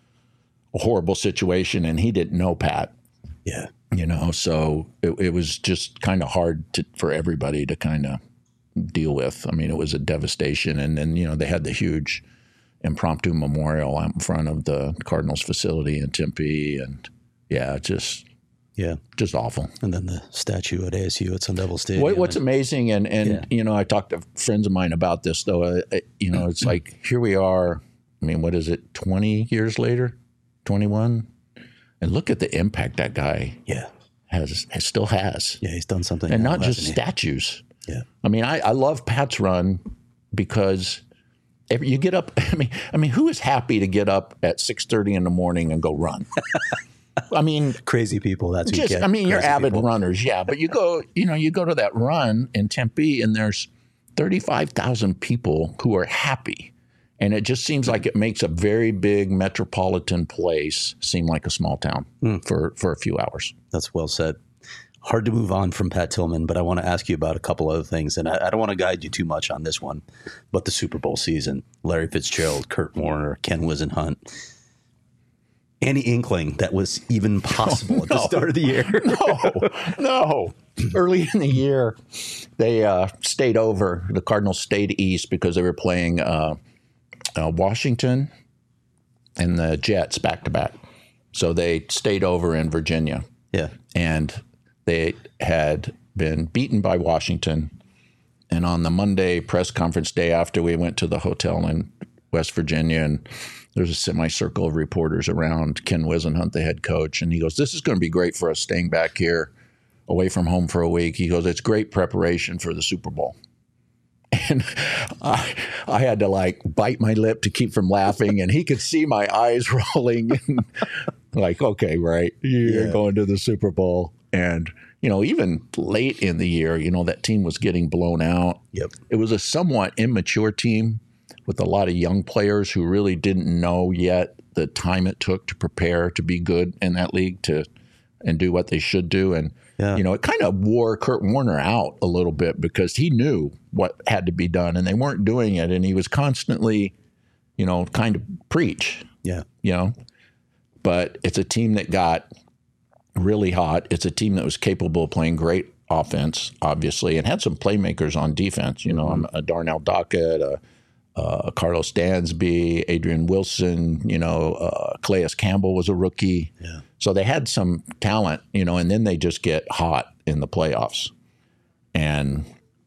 a horrible situation and he didn't know Pat. Yeah. You know, so it, it was just kind of hard to, for everybody to kind of deal with. I mean, it was a devastation. And then, you know, they had the huge impromptu memorial out in front of the Cardinals facility in Tempe, and yeah, just yeah, just awful. And then the statue at A S U at Sun Devil Stadium. What, what's and, amazing, and and yeah. you know, I talked to friends of mine about this though. Uh, you know, it's like here we are. I mean, what is it? Twenty years later, twenty-one, and look at the impact that guy yeah has, has still has. Yeah, he's done something, and now, not just he? statues. Yeah, I mean, I, I love Pat's run because. You get up. I mean, I mean, who is happy to get up at six thirty in the morning and go run? I mean, crazy people. That's who just. you get. I mean, you're avid people. runners, yeah. But you go, you know, you go to that run in Tempe, and there's thirty-five thousand people who are happy, and it just seems like it makes a very big metropolitan place seem like a small town mm. for for a few hours. That's well said. Hard to move on from Pat Tillman, but I want to ask you about a couple other things, and I, I don't want to guide you too much on this one, but the Super Bowl season, Larry Fitzgerald, Kurt Warner, Ken Whisenhunt. any inkling that was even possible oh, at the no. start of the year? no, no. Early in the year, they uh, stayed over. The Cardinals stayed east because they were playing uh, uh, Washington and the Jets back to back. So they stayed over in Virginia. Yeah. And they had been beaten by Washington. And on the Monday press conference day after, we went to the hotel in West Virginia, and there's a semicircle of reporters around Ken Wisenhunt, the head coach. And he goes, this is going to be great for us staying back here away from home for a week. He goes, it's great preparation for the Super Bowl. And I, I had to like bite my lip to keep from laughing, and he could see my eyes rolling. And like, okay, right, you're yeah. going to the Super Bowl. And, you know, even late in the year, you know, that team was getting blown out. Yep. It was a somewhat immature team with a lot of young players who really didn't know yet the time it took to prepare to be good in that league to and do what they should do. And, yeah. you know, it kind of wore Kurt Warner out a little bit because he knew what had to be done and they weren't doing it. And he was constantly, you know, kind of preach. Yeah. You know, but it's a team that got really hot. It's a team that was capable of playing great offense, obviously, and had some playmakers on defense. You know, mm-hmm. a Darnell Dockett, a, a Carlos Dansby, Adrian Wilson, you know, uh, Calais Campbell was a rookie. Yeah. So they had some talent, you know, and then they just get hot in the playoffs. And,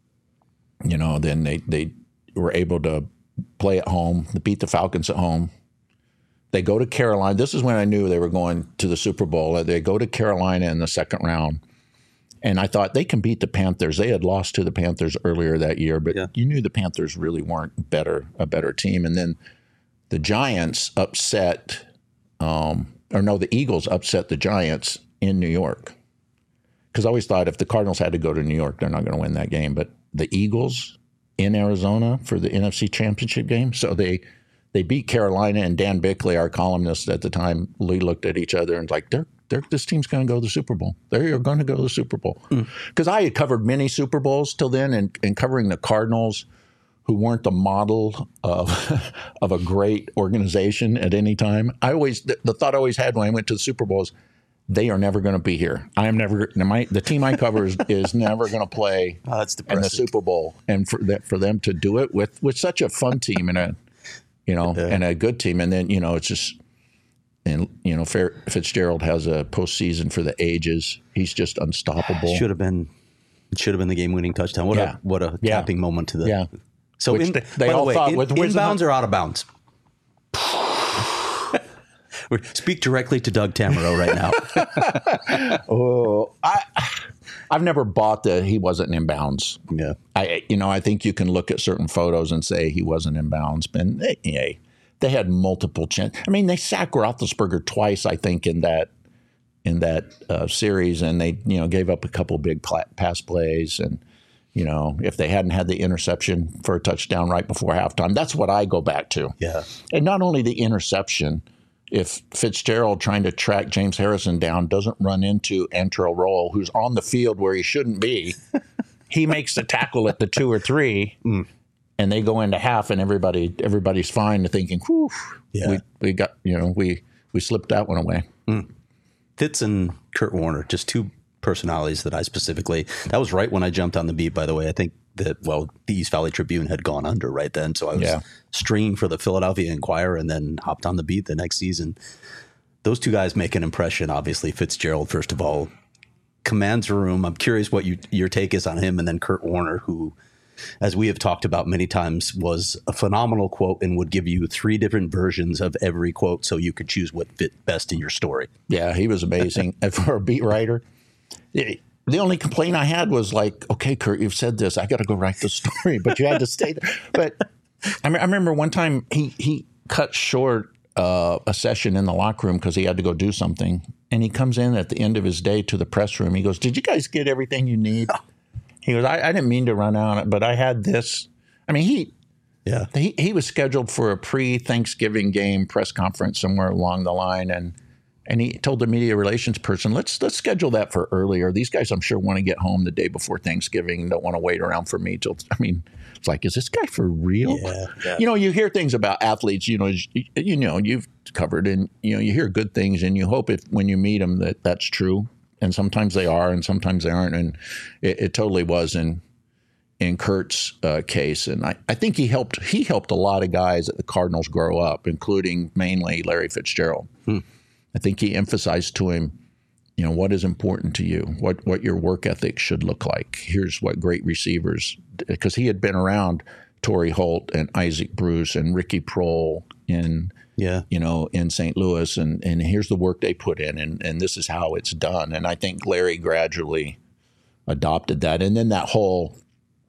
you know, then they, they were able to play at home, beat the Falcons at home. They go to Carolina. This is when I knew they were going to the Super Bowl. They go to Carolina in the second round. And I thought they can beat the Panthers. They had lost to the Panthers earlier that year, but yeah. you knew the Panthers really weren't better, a better team. And then the Giants upset, um, or no, the Eagles upset the Giants in New York. Because I always thought if the Cardinals had to go to New York, they're not going to win that game. But the Eagles in Arizona for the N F C Championship game. So they they beat Carolina, and Dan Bickley, our columnist at the time, we looked at each other and was like, they're They're, this team's going to go to the Super Bowl. They're going to go to the Super Bowl. Because mm. I had covered many Super Bowls till then, and, and covering the Cardinals, who weren't the model of of a great organization at any time. I always the, the thought I always had when I went to the Super Bowl is, they are never going to be here. I am never. My, the team I cover is, is never going to play oh, that's in the Super Bowl, and for that for them to do it with with such a fun team and a you know yeah. and a good team, and then you know it's just. And, you know, Fitzgerald has a postseason for the ages. He's just unstoppable. Should have been should have been the game-winning touchdown. What yeah. a what a yeah. tapping moment to the yeah. So in, they, they by all the way, thought in, with inbounds or out of bounds? Speak directly to Doug Tamaro right now. oh, I I've never bought the he wasn't in bounds. Yeah. I you know, I think you can look at certain photos and say he wasn't in bounds, but hey, hey they had multiple chances. I mean, they sacked Roethlisberger twice, I think, in that in that uh, series, and they, you know, gave up a couple big pla- pass plays. And you know, if they hadn't had the interception for a touchdown right before halftime, that's what I go back to. Yeah. And not only the interception, if Fitzgerald trying to track James Harrison down doesn't run into Antrell Roll, who's on the field where he shouldn't be, he makes the tackle at the two or three. Mm. And they go into half, and everybody everybody's fine, thinking, "Whew, yeah. we we got you know we we slipped that one away." Mm. Fitz and Kurt Warner, just two personalities that I specifically. That was right when I jumped on the beat. By the way, I think that well, the East Valley Tribune had gone under right then, so I was yeah. stringing for the Philadelphia Inquirer, and then hopped on the beat the next season. Those two guys make an impression. Obviously, Fitzgerald, first of all, commands a room. I'm curious what you, your take is on him, and then Kurt Warner, who, as we have talked about many times, was a phenomenal quote and would give you three different versions of every quote so you could choose what fit best in your story. Yeah, he was amazing. And for a beat writer, the only complaint I had was like, okay, Kurt, you've said this. I got to go write the story, but you had to stay there. But I, mean, I remember one time he, he cut short uh, a session in the locker room because he had to go do something. And he comes in at the end of his day to the press room. He goes, did you guys get everything you need? He goes, I, I didn't mean to run out, but I had this. I mean, he, yeah, he he was scheduled for a pre-Thanksgiving game press conference somewhere along the line, and and he told the media relations person, let's let's schedule that for earlier. These guys, I'm sure, want to get home the day before Thanksgiving and don't want to wait around for me till. I mean, It's like, is this guy for real? Yeah, yeah. You know, you hear things about athletes, you know, you, you know, you've covered, and, you know, you hear good things, and you hope if when you meet them that that's true. And sometimes they are, and sometimes they aren't. And it, it totally was in in Kurt's uh, case. And I, I think he helped he helped a lot of guys at the Cardinals grow up, including mainly Larry Fitzgerald. Hmm. I think he emphasized to him, you know, what is important to you, what what your work ethic should look like. Here's what great receivers, because he had been around Torrey Holt and Isaac Bruce and Ricky Prohl in yeah. you know, in Saint Louis, and, and here's the work they put in, and, and this is how it's done. And I think Larry gradually adopted that. And then that whole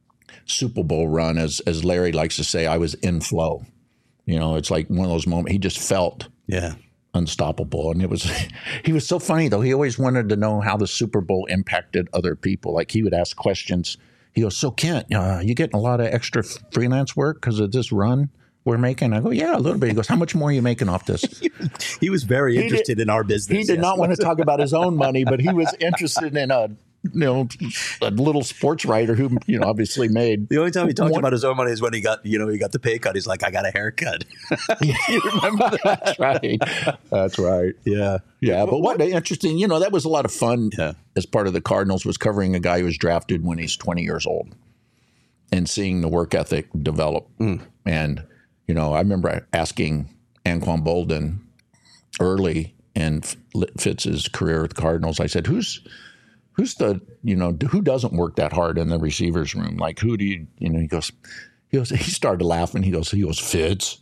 Super Bowl run, as as Larry likes to say, I was in flow. You know, it's like one of those moments he just felt yeah. unstoppable. And it was, he was so funny though. He always wanted to know how the Super Bowl impacted other people. Like he would ask questions. He goes, so Kent, uh, you getting a lot of extra freelance work because of this run we're making? I go, yeah, a little bit. He goes, how much more are you making off this? He was very interested did, in our business. He did yes. not want to talk about his own money, but he was interested in a, you know, a little sports writer who, you know, obviously made. The only time he talked one, about his own money is when he got, you know, he got the pay cut. He's like, I got a haircut. You remember that? That's right. That's right. Yeah. Yeah. But what interesting, you know, that was a lot of fun yeah. as part of the Cardinals, was covering a guy who was drafted when he's twenty years old and seeing the work ethic develop. Mm. And, you know, I remember asking Anquan Boldin early in Fitz's career with the Cardinals, I said, who's, who's the, you know, who doesn't work that hard in the receivers room? Like, who do you, you know, he goes, he goes, he started laughing. He goes, he goes, Fitz.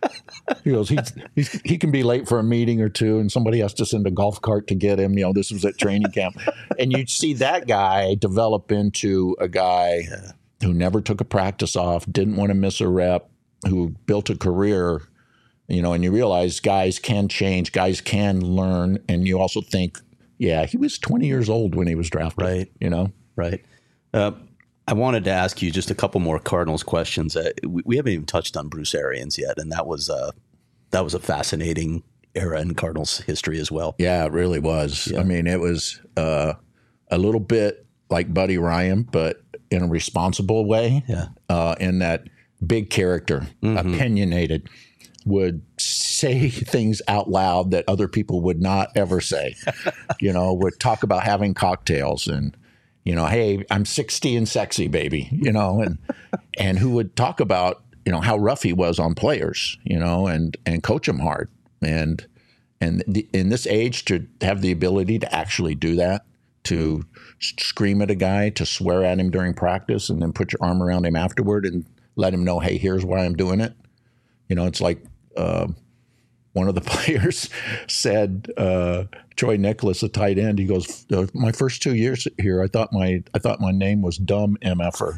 He goes, he's, he's, he can be late for a meeting or two and somebody has to send a golf cart to get him. You know, this was at training camp. And you see that guy develop into a guy yeah. who never took a practice off, didn't want to miss a rep, who built a career, you know, and you realize guys can change, guys can learn. And you also think, yeah, he was twenty years old when he was drafted. Right. You know? Right. Uh, I wanted to ask you just a couple more Cardinals questions. Uh, we, we haven't even touched on Bruce Arians yet, and that was uh, that was a fascinating era in Cardinals history as well. Yeah, it really was. Yeah. I mean, it was uh, a little bit like Buddy Ryan, but in a responsible way. Yeah. Uh, in that big character, mm-hmm. opinionated, would say things out loud that other people would not ever say. You know, would talk about having cocktails and, you know, hey, I'm sixty and sexy, baby, you know, and and who would talk about, you know, how rough he was on players, you know, and and coach them hard. And and the, in this age, to have the ability to actually do that, to scream at a guy, to swear at him during practice, and then put your arm around him afterward and let him know, hey, here's why I'm doing it. You know, it's like uh, one of the players said, uh, Troy Nicholas, a tight end, he goes, my first two years here, I thought my I thought my name was Dumb M F-er.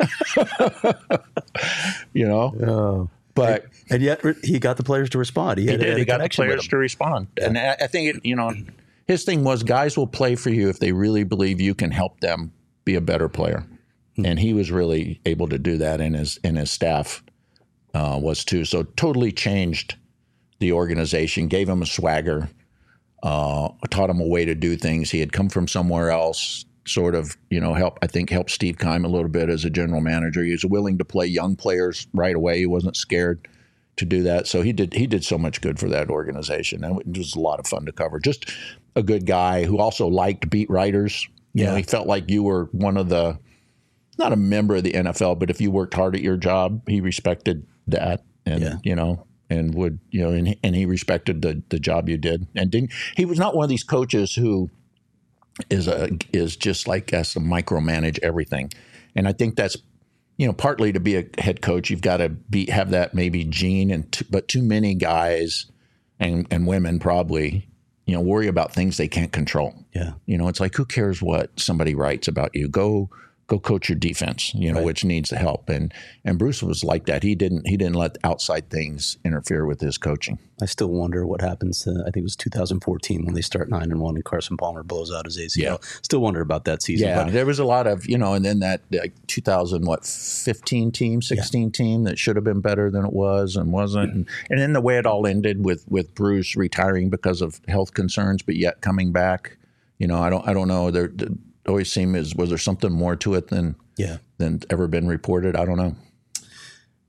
You know? Oh. But and, and yet he got the players to respond. He, he had, did. had He got the players to respond. Yeah. And I, I think, it, you know, his thing was guys will play for you if they really believe you can help them be a better player. Hmm. And he was really able to do that, and his, and his staff uh, was too. So totally changed the organization, gave him a swagger, uh, taught him a way to do things. He had come from somewhere else, sort of, you know, help, I think helped Steve Keim a little bit as a general manager. He was willing to play young players right away. He wasn't scared to do that. So he did, he did so much good for that organization. And it was a lot of fun to cover. Just a good guy who also liked beat writers. You yeah. know, he felt like you were one of the, not a member of the N F L, but if you worked hard at your job, he respected that. And, yeah. you know, and would, you know, and, and he respected the, the job you did. And didn't, he was not one of these coaches who is a, is just like has to micromanage everything. And I think that's, you know, partly to be a head coach, you've got to be, have that maybe gene, and t- but too many guys and, and women probably, you know, worry about things they can't control. Yeah. You know, it's like, who cares what somebody writes about you? Go, go coach your defense, you know, right. which needs the help. And and Bruce was like that. He didn't he didn't let outside things interfere with his coaching. I still wonder what happens to, I think it was two thousand fourteen when they start nine and one and Carson Palmer blows out his A C L. Yeah. Still wonder about that season. Yeah, but there was a lot of, you know, and then that like, two thousand, what, fifteen team, sixteen yeah. team that should have been better than it was and wasn't. Mm-hmm. And, and then the way it all ended with, with Bruce retiring because of health concerns, but yet coming back, you know, I don't, I don't know. There, there always seemed as, was there something more to it than, yeah. than ever been reported? I don't know.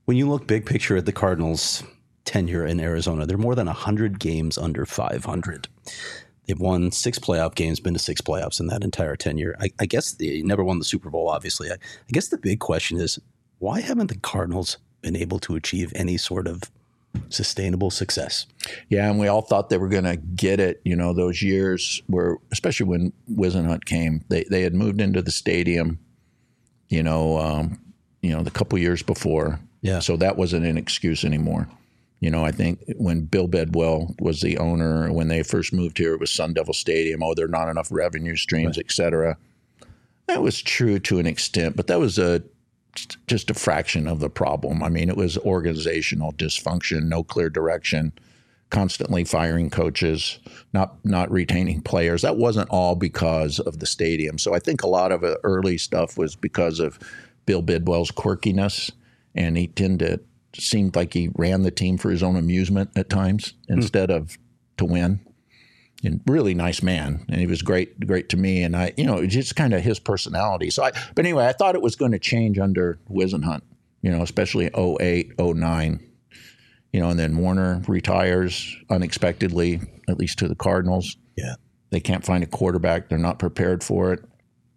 When you look big picture at the Cardinals' tenure in Arizona, they're more than one hundred games under five hundred. They've won six playoff games, been to six playoffs in that entire tenure. I, I guess they never won the Super Bowl, obviously. I, I guess the big question is, why haven't the Cardinals been able to achieve any sort of sustainable success? Yeah, and we all thought they were going to get it. You know, those years where, especially when Whisenhunt came, they they had moved into the stadium, you know, um, you know, the couple years before. Yeah. So that wasn't an excuse anymore. You know, I think when Bill Bedwell was the owner, when they first moved here, it was Sun Devil Stadium. Oh, there are not enough revenue streams, right, et cetera. That was true to an extent, but that was a just a fraction of the problem. I mean, it was organizational dysfunction, no clear direction, constantly firing coaches, not not retaining players. That wasn't all because of the stadium. So I think a lot of the early stuff was because of Bill Bidwell's quirkiness, and he tended to seemed like he ran the team for his own amusement at times instead mm. of to win. And really nice man, and he was great, great to me. And I, you know, just kind of his personality. So, I, but anyway, I thought it was going to change under Whisenhunt, you know, especially oh eight, oh nine, you know, and then Warner retires unexpectedly, at least to the Cardinals. Yeah, they can't find a quarterback; they're not prepared for it.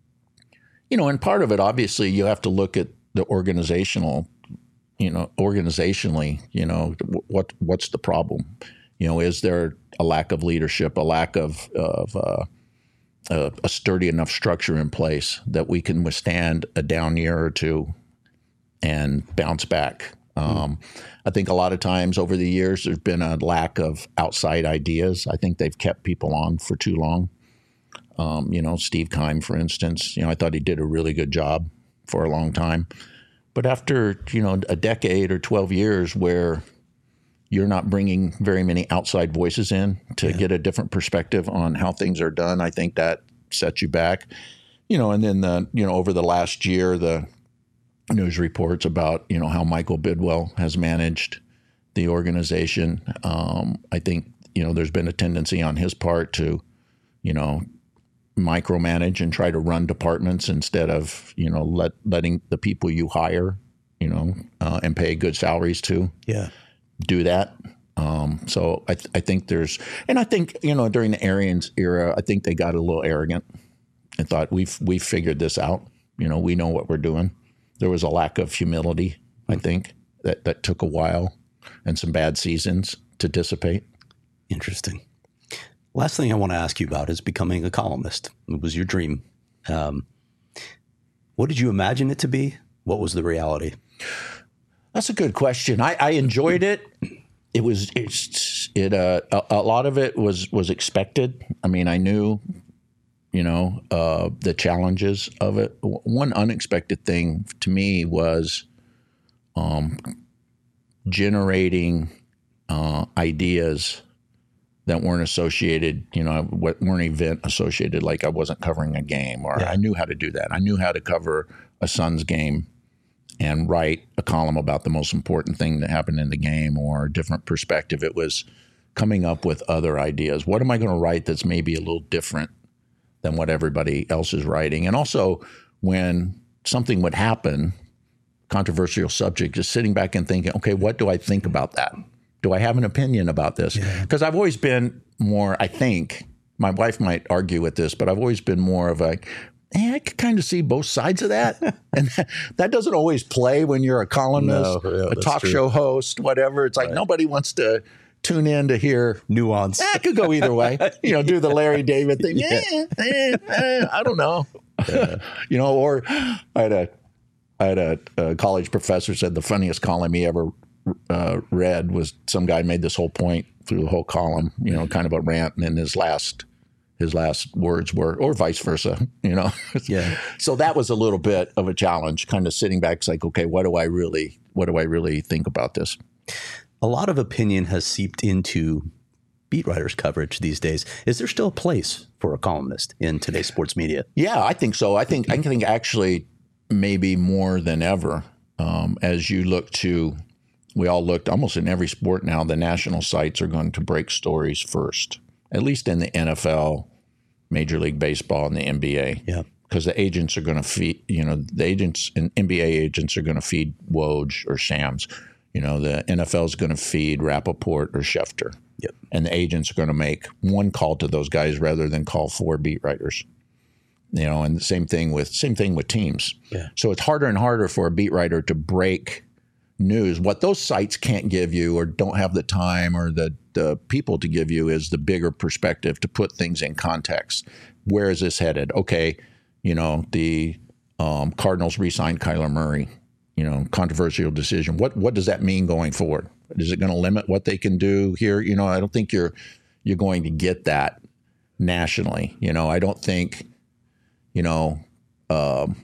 You know, and part of it, obviously, you have to look at the organizational, you know, organizationally, you know, what what's the problem? You know, is there a lack of leadership, a lack of, of uh, a, a sturdy enough structure in place that we can withstand a down year or two and bounce back? Um, mm. I think a lot of times over the years there's been a lack of outside ideas. I think they've kept people on for too long. Um, you know, Steve Keim, for instance, you know, I thought he did a really good job for a long time. But after, you know, a decade or twelve years where you're not bringing very many outside voices in to yeah. get a different perspective on how things are done, I think that sets you back. You know, and then the, you know, over the last year, the news reports about, you know, how Michael Bidwell has managed the organization. Um, I think, you know, there's been a tendency on his part to, you know, micromanage and try to run departments instead of, you know, let letting the people you hire, you know, uh, and pay good salaries to. Yeah. do that. Um, so I, th- I think there's, and I think, you know, during the Arians era, I think they got a little arrogant and thought we've, we've figured this out. You know, we know what we're doing. There was a lack of humility, I think, that, that took a while and some bad seasons to dissipate. Interesting. Last thing I want to ask you about is becoming a columnist. It was your dream. Um, what did you imagine it to be? What was the reality? That's a good question. I, I enjoyed it. It was it's, it uh, a, a lot of it was was expected. I mean, I knew, you know, uh, the challenges of it. One unexpected thing to me was um, generating uh, ideas that weren't associated, you know, weren't event associated. Like I wasn't covering a game, or yeah. I knew how to do that. I knew how to cover a Suns game and write a column about the most important thing that happened in the game or a different perspective. It was coming up with other ideas. What am I going to write that's maybe a little different than what everybody else is writing? And also when something would happen, controversial subject, just sitting back and thinking, okay, what do I think about that? Do I have an opinion about this? Because yeah. I've always been more, I think, my wife might argue with this, but I've always been more of a, Hey, I could kind of see both sides of that. And that, that doesn't always play when you're a columnist, no, yeah, a talk true. show host, whatever. It's like right. nobody wants to tune in to hear nuance. Eh, it could go either way. You know, do the Larry David thing. Yeah. Eh, eh, eh, I don't know. Yeah. You know, or I had a I had a, a college professor said the funniest column he ever uh, read was some guy made this whole point through the whole column, you know, kind of a rant, and then his last His last words were, or vice versa, you know? Yeah. So that was a little bit of a challenge, kind of sitting back. It's like, okay, what do I really, what do I really think about this? A lot of opinion has seeped into beat writers' coverage these days. Is there still a place for a columnist in today's sports media? Yeah, I think so. I think, I think actually maybe more than ever, um, as you look to, we all looked almost in every sport now, the national sites are going to break stories first. At least in the N F L, Major League Baseball, and the N B A. Yeah. because the agents are going to feed, you know, the agents and N B A agents are going to feed Woj or Shams. You know, the N F L is going to feed Rappaport or Schefter. Yep. And the agents are going to make one call to those guys rather than call four beat writers. You know, and the same thing with same thing with teams. Yeah. So it's harder and harder for a beat writer to break news. What those sites can't give you or don't have the time or the, the people to give you is the bigger perspective to put things in context. Where is this headed? Okay, you know, the um, Cardinals re-signed Kyler Murray, you know, controversial decision. What what does that mean going forward? Is it going to limit what they can do here? You know, I don't think you're you're going to get that nationally. You know, I don't think, you know, um,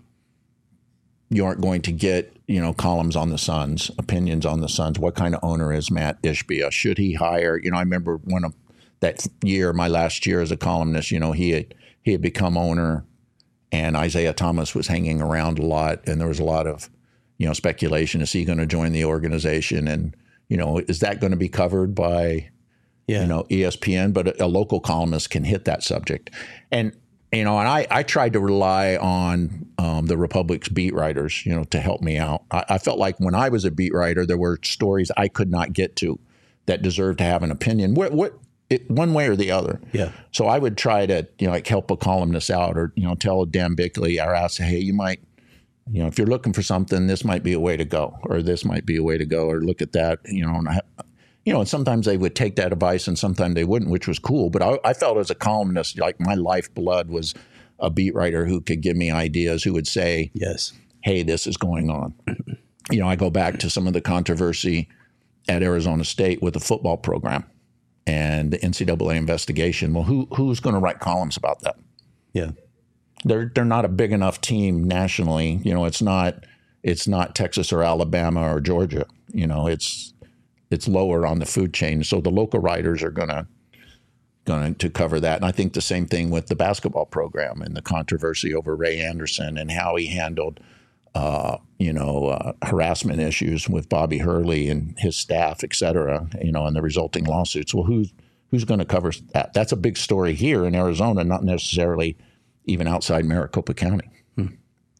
you aren't going to get, you know, columns on the Suns, opinions on the Suns. What kind of owner is Matt Ishbia? Should he hire? You know, I remember one of that year, my last year as a columnist, you know, he had he had become owner, and Isaiah Thomas was hanging around a lot, and there was a lot of, you know, speculation. Is he going to join the organization? And, you know, is that going to be covered by, yeah. you know, E S P N? But a, a local columnist can hit that subject. And, you know, and I, I tried to rely on um, the Republic's beat writers, you know, to help me out. I, I felt like when I was a beat writer, there were stories I could not get to that deserved to have an opinion. What, what, It, one way or the other. Yeah. So I would try to, you know, like help a columnist out, or, you know, tell Dan Bickley or ask, hey, you might, you know, if you're looking for something, this might be a way to go, or this might be a way to go, or look at that, you know, and I, you know, and sometimes they would take that advice and sometimes they wouldn't, which was cool. But I, I felt as a columnist, like my lifeblood was a beat writer who could give me ideas, who would say, yes, hey, this is going on. You know, I go back to some of the controversy at Arizona State with the football program and the N C double A investigation. Well, who who's going to write columns about that? Yeah, they're they're not a big enough team nationally. You know, it's not it's not Texas or Alabama or Georgia. You know, it's it's lower on the food chain. So the local writers are gonna going to cover that. And I think the same thing with the basketball program and the controversy over Ray Anderson and how he handled Uh, you know, uh, harassment issues with Bobby Hurley and his staff, et cetera, you know, and the resulting lawsuits. Well, who's who's going to cover that? That's a big story here in Arizona, not necessarily even outside Maricopa County. Hmm.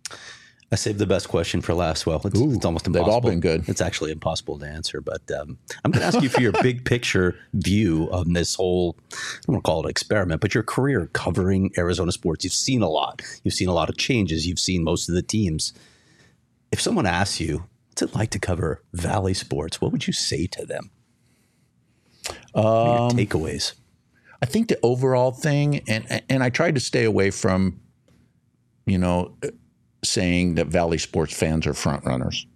I saved the best question for last. Well, it's, Ooh, it's almost impossible. They've all been good. It's actually impossible to answer, but um, I'm going to ask you for your big picture view of this whole, I don't want to call it experiment, but your career covering Arizona sports. You've seen a lot. You've seen a lot of changes. You've seen most of the teams. If someone asks you, what's it like to cover Valley sports, what would you say to them? What are your Um, takeaways? I think the overall thing, and and I tried to stay away from, you know, saying that Valley sports fans are front runners,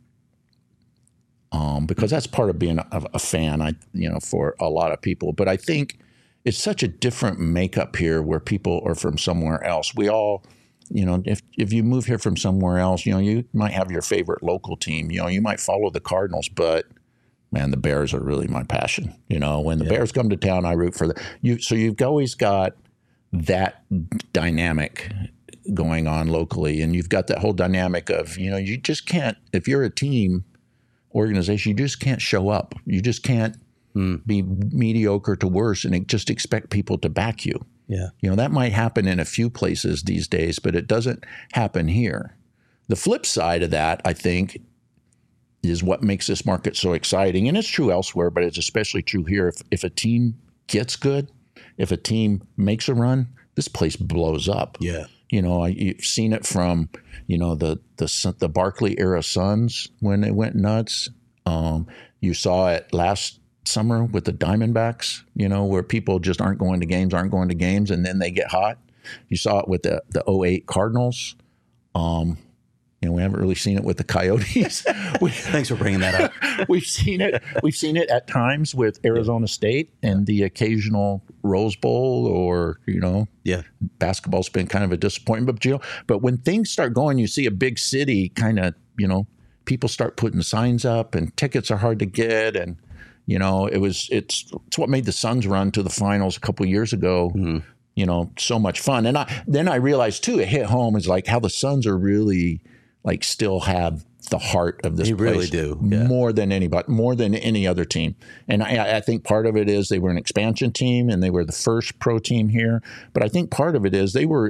um, because that's part of being a, a fan. I, you know, for a lot of people, but I think it's such a different makeup here, where people are from somewhere else. We all, you know, if if you move here from somewhere else, you know, you might have your favorite local team. You know, you might follow the Cardinals, but man, the Bears are really my passion. You know, when the Yeah. Bears come to town, I root for them. You, so you've always got that dynamic going on locally, and you've got that whole dynamic of, you know, you just can't, if you're a team organization, you just can't show up. You just can't mm. be mediocre to worse and just expect people to back you. Yeah. You know, that might happen in a few places these days, but it doesn't happen here. The flip side of that, I think, is what makes this market so exciting. And it's true elsewhere, but it's especially true here. If, if a team gets good, if a team makes a run, this place blows up. Yeah. You know, I, you've seen it from, you know, the the the Barkley era Suns when they went nuts. Um, you saw it last summer with the Diamondbacks, you know, where people just aren't going to games, aren't going to games, and then they get hot. You saw it with the the oh eight Cardinals. Um, you know, we haven't really seen it with the Coyotes. we, Thanks for bringing that up. we've seen it. We've seen it at times with Arizona State and the occasional Rose Bowl, or, you know, yeah, basketball's been kind of a disappointment. But, you know, but when things start going, you see a big city kind of, you know, people start putting signs up, and tickets are hard to get. And, you know, it was it's it's what made the Suns run to the finals a couple of years ago. Mm-hmm. You know, so much fun. And I then I realized too, it hit home, is like how the Suns are really like still have the heart of this they place. Really do. Yeah. More than anybody, more than any other team. And I, I think part of it is they were an expansion team and they were the first pro team here. But I think part of it is they were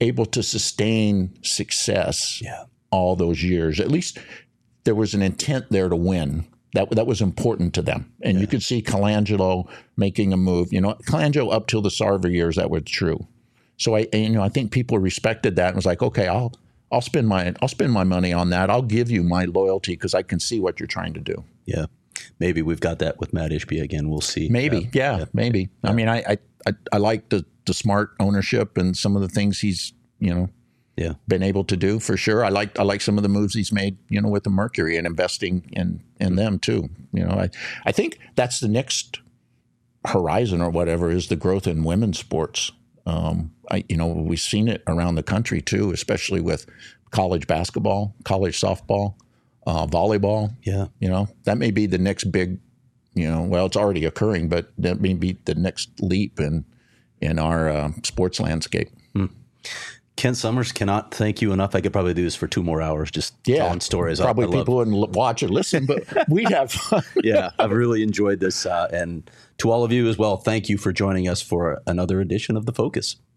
able to sustain success Yeah. all those years. At least there was an intent there to win. That that was important to them. And yeah. you could see Colangelo making a move. You know, Colangelo up till the Sarver years, that was true. So I, you know, I think people respected that and was like, okay, I'll I'll spend my I'll spend my money on that. I'll give you my loyalty because I can see what you're trying to do. Yeah, maybe we've got that with Matt Ishbia again. We'll see. Maybe, uh, yeah, yeah, maybe. Yeah. I mean, I I I like the the smart ownership and some of the things he's you know yeah been able to do for sure. I like I like some of the moves he's made you know with the Mercury and investing in in them too. You know, I I think that's the next horizon or whatever is the growth in women's sports. Um, I, you know, we've seen it around the country too, especially with college basketball, college softball, uh, volleyball. Yeah. You know, that may be the next big, you know, well, it's already occurring, but that may be the next leap in, in our uh, sports landscape. Hmm. Ken Summers, cannot thank you enough. I could probably do this for two more hours just yeah, telling stories. Probably I, I people love. wouldn't watch or listen, but we'd have fun. Yeah, I've really enjoyed this. Uh, and to all of you as well, thank you for joining us for another edition of The Focus.